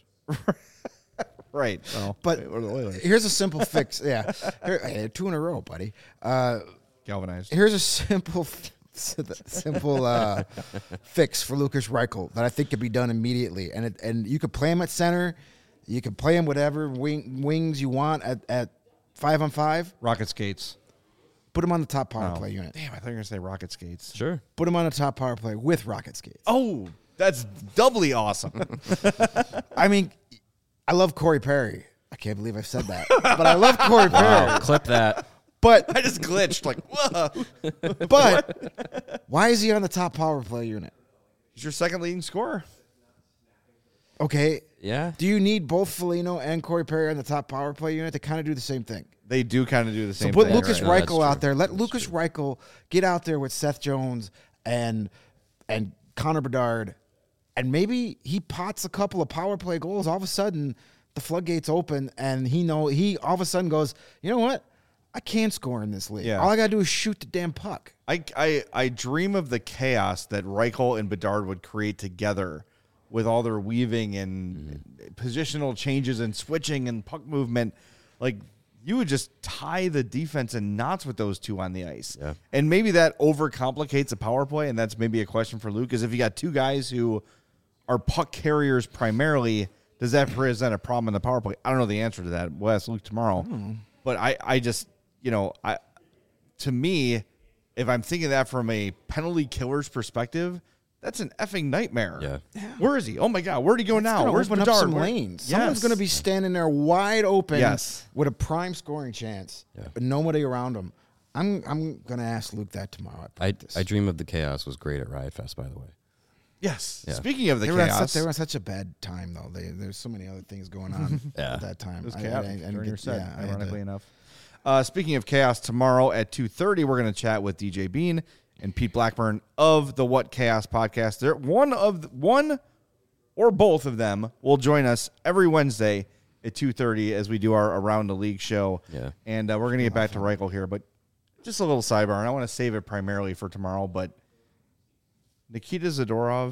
Right. Well, but here's a simple fix. Yeah. 2 in a row, buddy. Galvanized. Here's a simple fix for Lukas Reichel that I think could be done immediately. And you could play him at center. You can play him whatever wings you want at 5-on-5. Rocket skates. Put him on the top power play unit. Damn, I thought you were going to say rocket skates. Sure. Put him on the top power play with rocket skates. Oh, that's doubly awesome. I mean, I love Corey Perry. I can't believe I've said that. But I love Corey Perry. Wow, clip that. But I just glitched like, whoa. but why is he on the top power play unit? He's your second leading scorer. Okay. Yeah. Do you need both Foligno and Corey Perry on the top power play unit? They kind of do the same thing. They do kind of do the So same put thing. Lucas right. No, that's Reichel out true. there. Let That's Lucas Reichel get out there with Seth Jones and Connor Bedard, and maybe he pots a couple of power play goals. All of a sudden, the floodgates open, and he all of a sudden goes, you know what? I can score in this league. Yeah. All I gotta do is shoot the damn puck. I dream of the chaos that Reichel and Bedard would create together with all their weaving and positional changes and switching and puck movement. Like, you would just tie the defense in knots with those two on the ice. Yeah. And maybe that overcomplicates a power play, and that's maybe a question for Luke, is if you got two guys who are puck carriers primarily, does that present a problem in the power play? I don't know the answer to that. We'll ask Luke tomorrow. But I just, to me, if I'm thinking that from a penalty killer's perspective, that's an effing nightmare. Yeah. Where is he? Oh my God, where'd he go now? Gonna Where's open Bedard? up some Where- lanes. Yes. Someone's going to be standing there wide open Yes. with a prime scoring chance, but nobody around him. I'm going to ask Luke that tomorrow at I practice. Dream of the Chaos was great at Riot Fest, by the way. Yes. Yeah. Speaking of the They were, chaos, they were on such a bad time, though. There's so many other things going on Yeah. at that time. it was I chaotic didn't during your get- set, yeah, I had to- ironically enough. Speaking of chaos, tomorrow at 2:30, we're going to chat with DJ Bean and Pete Blackburn of the What Chaos podcast. They're one or both of them will join us every Wednesday at 2:30 as we do our Around the League show. Yeah. And we're going to get back to Reichel here, but just a little sidebar, and I want to save it primarily for tomorrow, but Nikita Zadorov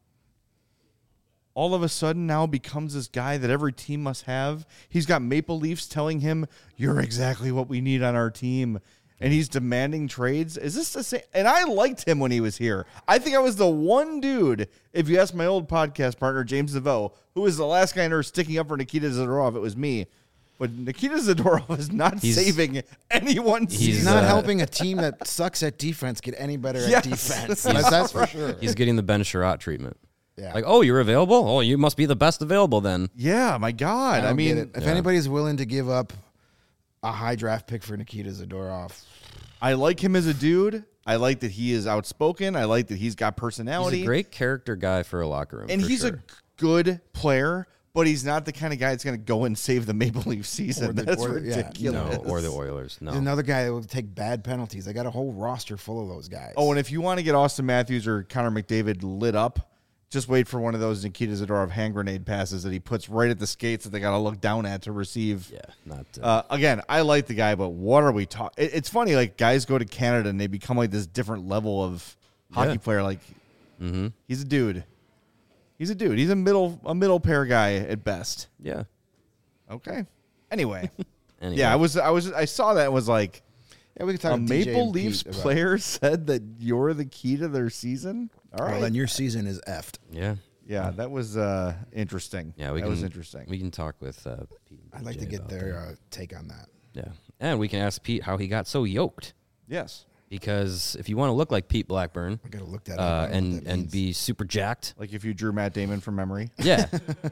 all of a sudden now becomes this guy that every team must have. He's got Maple Leafs telling him, you're exactly what we need on our team. And he's demanding trades. Is this the same? And I liked him when he was here. I think I was the one dude, if you ask my old podcast partner, James DeVoe, who was the last guy in there sticking up for Nikita Zadorov. It was me. But Nikita Zadorov is not saving anyone's he's He's not helping a team that sucks at defense get any better Yes. at defense. That's for sure. He's getting the Ben Sherratt treatment. Yeah. Like, oh, you're available? Oh, you must be the best available then. Yeah, my God. I don't mean, get it. If anybody's willing to give up a high draft pick for Nikita Zadorov, I like him as a dude. I like that he is outspoken. I like that he's got personality. He's a great character guy for a locker room. And for he's sure. a good player, but he's not the kind of guy that's going to go and save the Maple Leaf season. That's ridiculous. No, or the Oilers. No. he's another guy that will take bad penalties. They got a whole roster full of those guys. Oh, and if you want to get Austin Matthews or Connor McDavid lit up, just wait for one of those Nikita Zadorov hand grenade passes that he puts right at the skates that they got to look down at to receive. Yeah, not. Again, I like the guy, but what are we talking? It's funny, like guys go to Canada and they become like this different level of hockey player. Like he's a dude. He's a dude. He's a middle pair guy at best. yeah. Okay. Anyway, Anyway. yeah, I saw that and was like, yeah, we can talk a to DJ Maple and Leafs Pete about- player said that you're the key to their season. All right. Well, then your season is effed. Yeah. Yeah, that was interesting. Yeah, that was interesting. We can talk with Pete. and I'd like to Jay get about their that. take on that. Yeah, and we can ask Pete how he got so yoked. Yes. Because if you want to look like Pete Blackburn I gotta look that up. I don't know what that and means. be super jacked, Like if you drew Matt Damon from memory. yeah,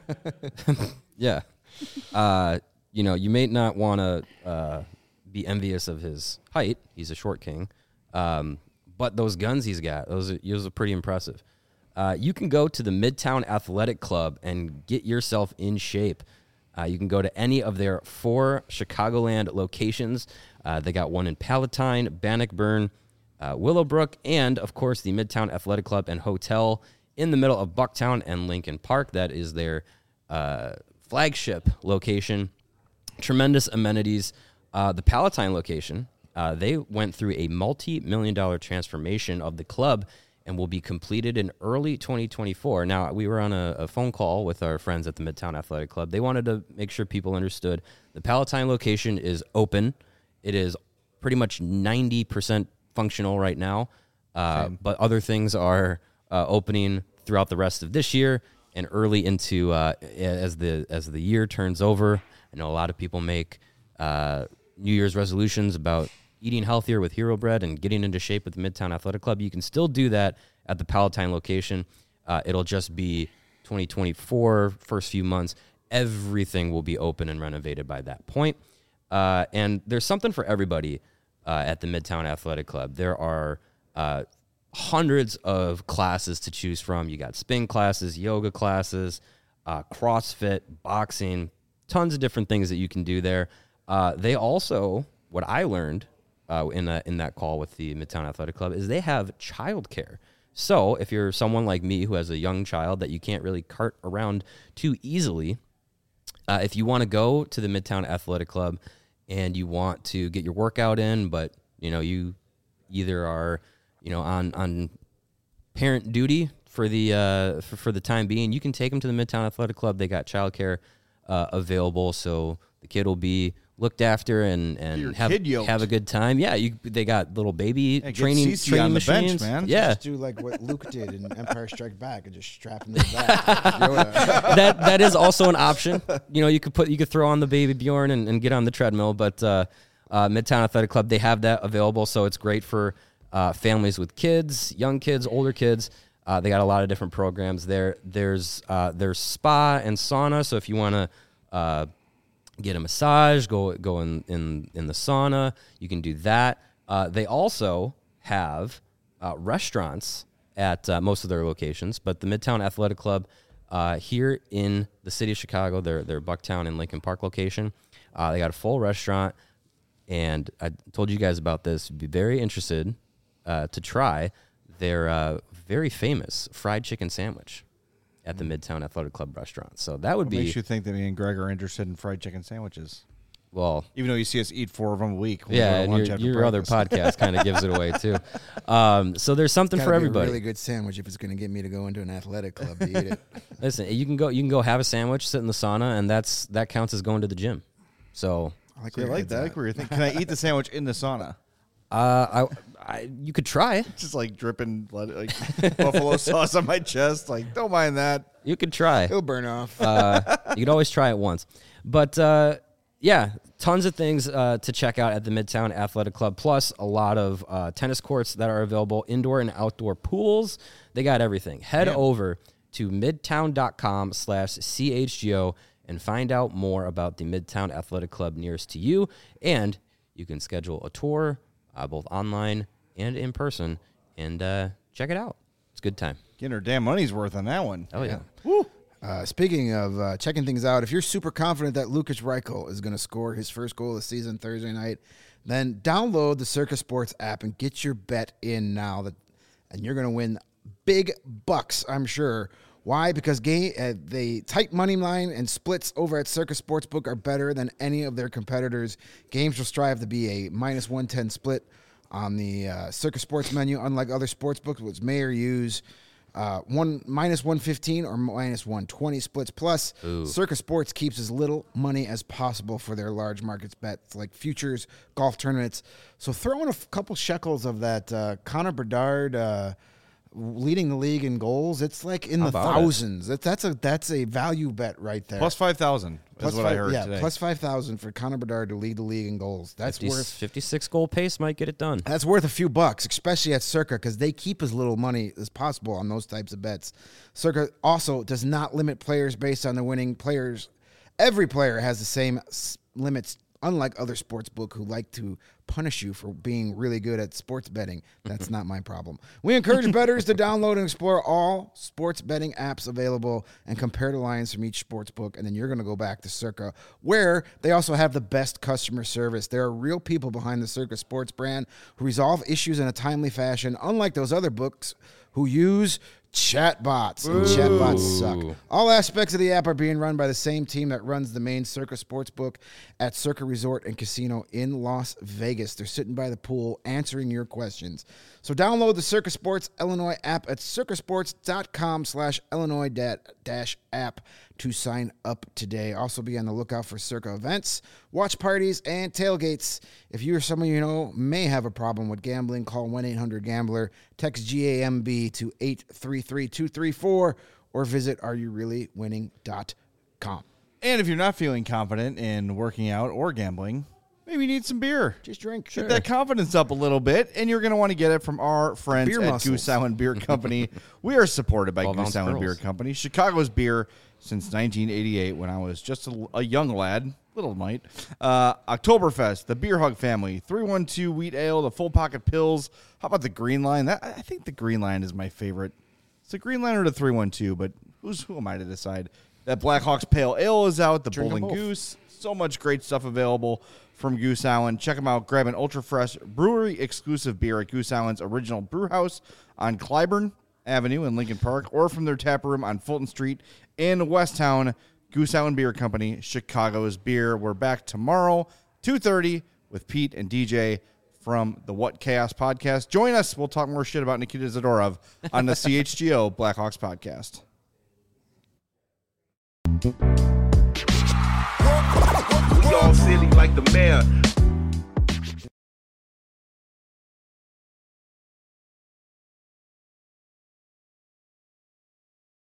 yeah, you may not want to be envious of his height. He's a short king, but those guns he's got, those are pretty impressive. You can go to the Midtown Athletic Club and get yourself in shape. You can go to any of their 4 Chicagoland locations. They got one in Palatine, Bannockburn, Willowbrook, and, of course, the Midtown Athletic Club and Hotel in the middle of Bucktown and Lincoln Park. That is their flagship location. Tremendous amenities. The Palatine location, they went through a multi-million-dollar transformation of the club and will be completed in early 2024. Now, we were on a phone call with our friends at the Midtown Athletic Club. They wanted to make sure people understood the Palatine location is open. It is pretty much 90% functional right now, but other things are opening throughout the rest of this year and early into as the year turns over. I know a lot of people make New Year's resolutions about eating healthier with Hero Bread and getting into shape with the Midtown Athletic Club. You can still do that at the Palatine location. It'll just be 2024 first few months. everything will be open and renovated by that point. And there's something for everybody at the Midtown Athletic Club. There are hundreds of classes to choose from. You got spin classes, yoga classes, CrossFit, boxing, tons of different things that you can do there. They also, what I learned in that call with the Midtown Athletic Club, is they have childcare. So if you're someone like me who has a young child that you can't really cart around too easily, if you want to go to the Midtown Athletic Club and you want to get your workout in, but you either are on parent duty for the time being, you can take them to the Midtown Athletic Club. They got childcare available, so the kid will be looked after and have a good time. Yeah, they got little baby training on the machines, bench, man. Yeah, Just do like what Luke did in Empire Strikes Back and just strap him to the back. that is also an option. You could throw on the baby Bjorn and get on the treadmill, but Midtown Athletic Club, they have that available, so it's great for families with kids, young kids, older kids. They got a lot of different programs there. There's spa and sauna, so if you want to get a massage, go in the sauna, you can do that. They also have restaurants at most of their locations, but the Midtown Athletic Club here in the city of Chicago, their Bucktown and Lincoln Park location, they got a full restaurant, and I told you guys about this. Be very interested to try their very famous fried chicken sandwich at the Midtown Athletic Club restaurant. So that would be... makes you think that me and Greg are interested in fried chicken sandwiches? Well... Even though you see us eat 4 of them a week. Yeah, and your other podcast kind of gives it away, too. So there's something for everybody. A really good sandwich if it's going to get me to go into an athletic club to eat it. Listen, you can go have a sandwich, sit in the sauna, and that counts as going to the gym. So... I like that. I like where you're thinking. Can I eat the sandwich in the sauna? You could try. Just like dripping like buffalo sauce on my chest. Like, don't mind that. You could try. It'll burn off. You could always try it once. But yeah, tons of things to check out at the Midtown Athletic Club, plus a lot of tennis courts that are available, indoor and outdoor pools. They got everything. Head over to midtown.com/CHGO and find out more about the Midtown Athletic Club nearest to you. And you can schedule a tour, both online and in person, and check it out. It's a good time. Getting her damn money's worth on that one. Oh, yeah. Woo. Speaking of checking things out, if you're super confident that Lukas Reichel is going to score his first goal of the season Thursday night, then download the Circa Sports app and get your bet in now. And you're going to win big bucks, I'm sure. Why? Because the tight money line and splits over at Circa Sportsbook are better than any of their competitors. Games will strive to be a -110 split on the Circa Sports menu, unlike other sportsbooks, which may or use -115 or -120 splits. Plus, Circa Sports keeps as little money as possible for their large markets bets like futures, golf tournaments. So throw in a couple shekels of that Connor Bedard leading the league in goals. It's like in the thousands. That's a value bet right there. Plus 5,000 is what I heard today. Plus 5,000 for Connor Bedard to lead the league in goals. That's worth 56 goal pace might get it done. That's worth a few bucks, especially at Circa, because they keep as little money as possible on those types of bets. Circa also does not limit players based on the winning players. Every player has the same limits, unlike other sportsbook who like to punish you for being really good at sports betting. That's not my problem. We encourage bettors to download and explore all sports betting apps available and compare the lines from each sportsbook, and then you're going to go back to Circa, where they also have the best customer service. There are real people behind the Circa Sports brand who resolve issues in a timely fashion, unlike those other books who use chatbots, and chatbots suck. All aspects of the app are being run by the same team that runs the main Circa Sportsbook at Circa Resort and Casino in Las Vegas. They're sitting by the pool answering your questions. So download the Circa Sports Illinois app at circasports.com/Illinois-app to sign up today. Also be on the lookout for Circa events, watch parties, and tailgates. If you or someone you know may have a problem with gambling, call 1-800-GAMBLER, text GAMB to 833-234, or visit areyoureallywinning.com. And if you're not feeling confident in working out or gambling, maybe you need some beer. Just drink. Get that confidence up a little bit, and you're going to want to get it from our friends Beer at muscles. Goose Island Beer Company. We are supported by 12-ounce Goose Island Beer girls. Company, Chicago's beer since 1988 when I was just a young lad, little mite. Oktoberfest, the Beer Hug family, 312 Wheat Ale, the Full Pocket Pills. How about the Green Line? I think the Green Line is my favorite. It's the Green Line or the 312, but who am I to decide? That Blackhawks Pale Ale is out, the Drink 'em Bowling both. Goose. So much great stuff available from Goose Island. Check them out. Grab an ultra fresh brewery exclusive beer at Goose Island's original brew house on Clybourne Avenue in Lincoln Park, or from their tap room on Fulton Street in Westtown. Goose Island Beer Company, Chicago's beer. We're back tomorrow, 2:30, with Pete and DJ from the What Chaos podcast. Join us. We'll talk more shit about Nikita Zadorov on the CHGO Blackhawks podcast. We all silly like the mayor.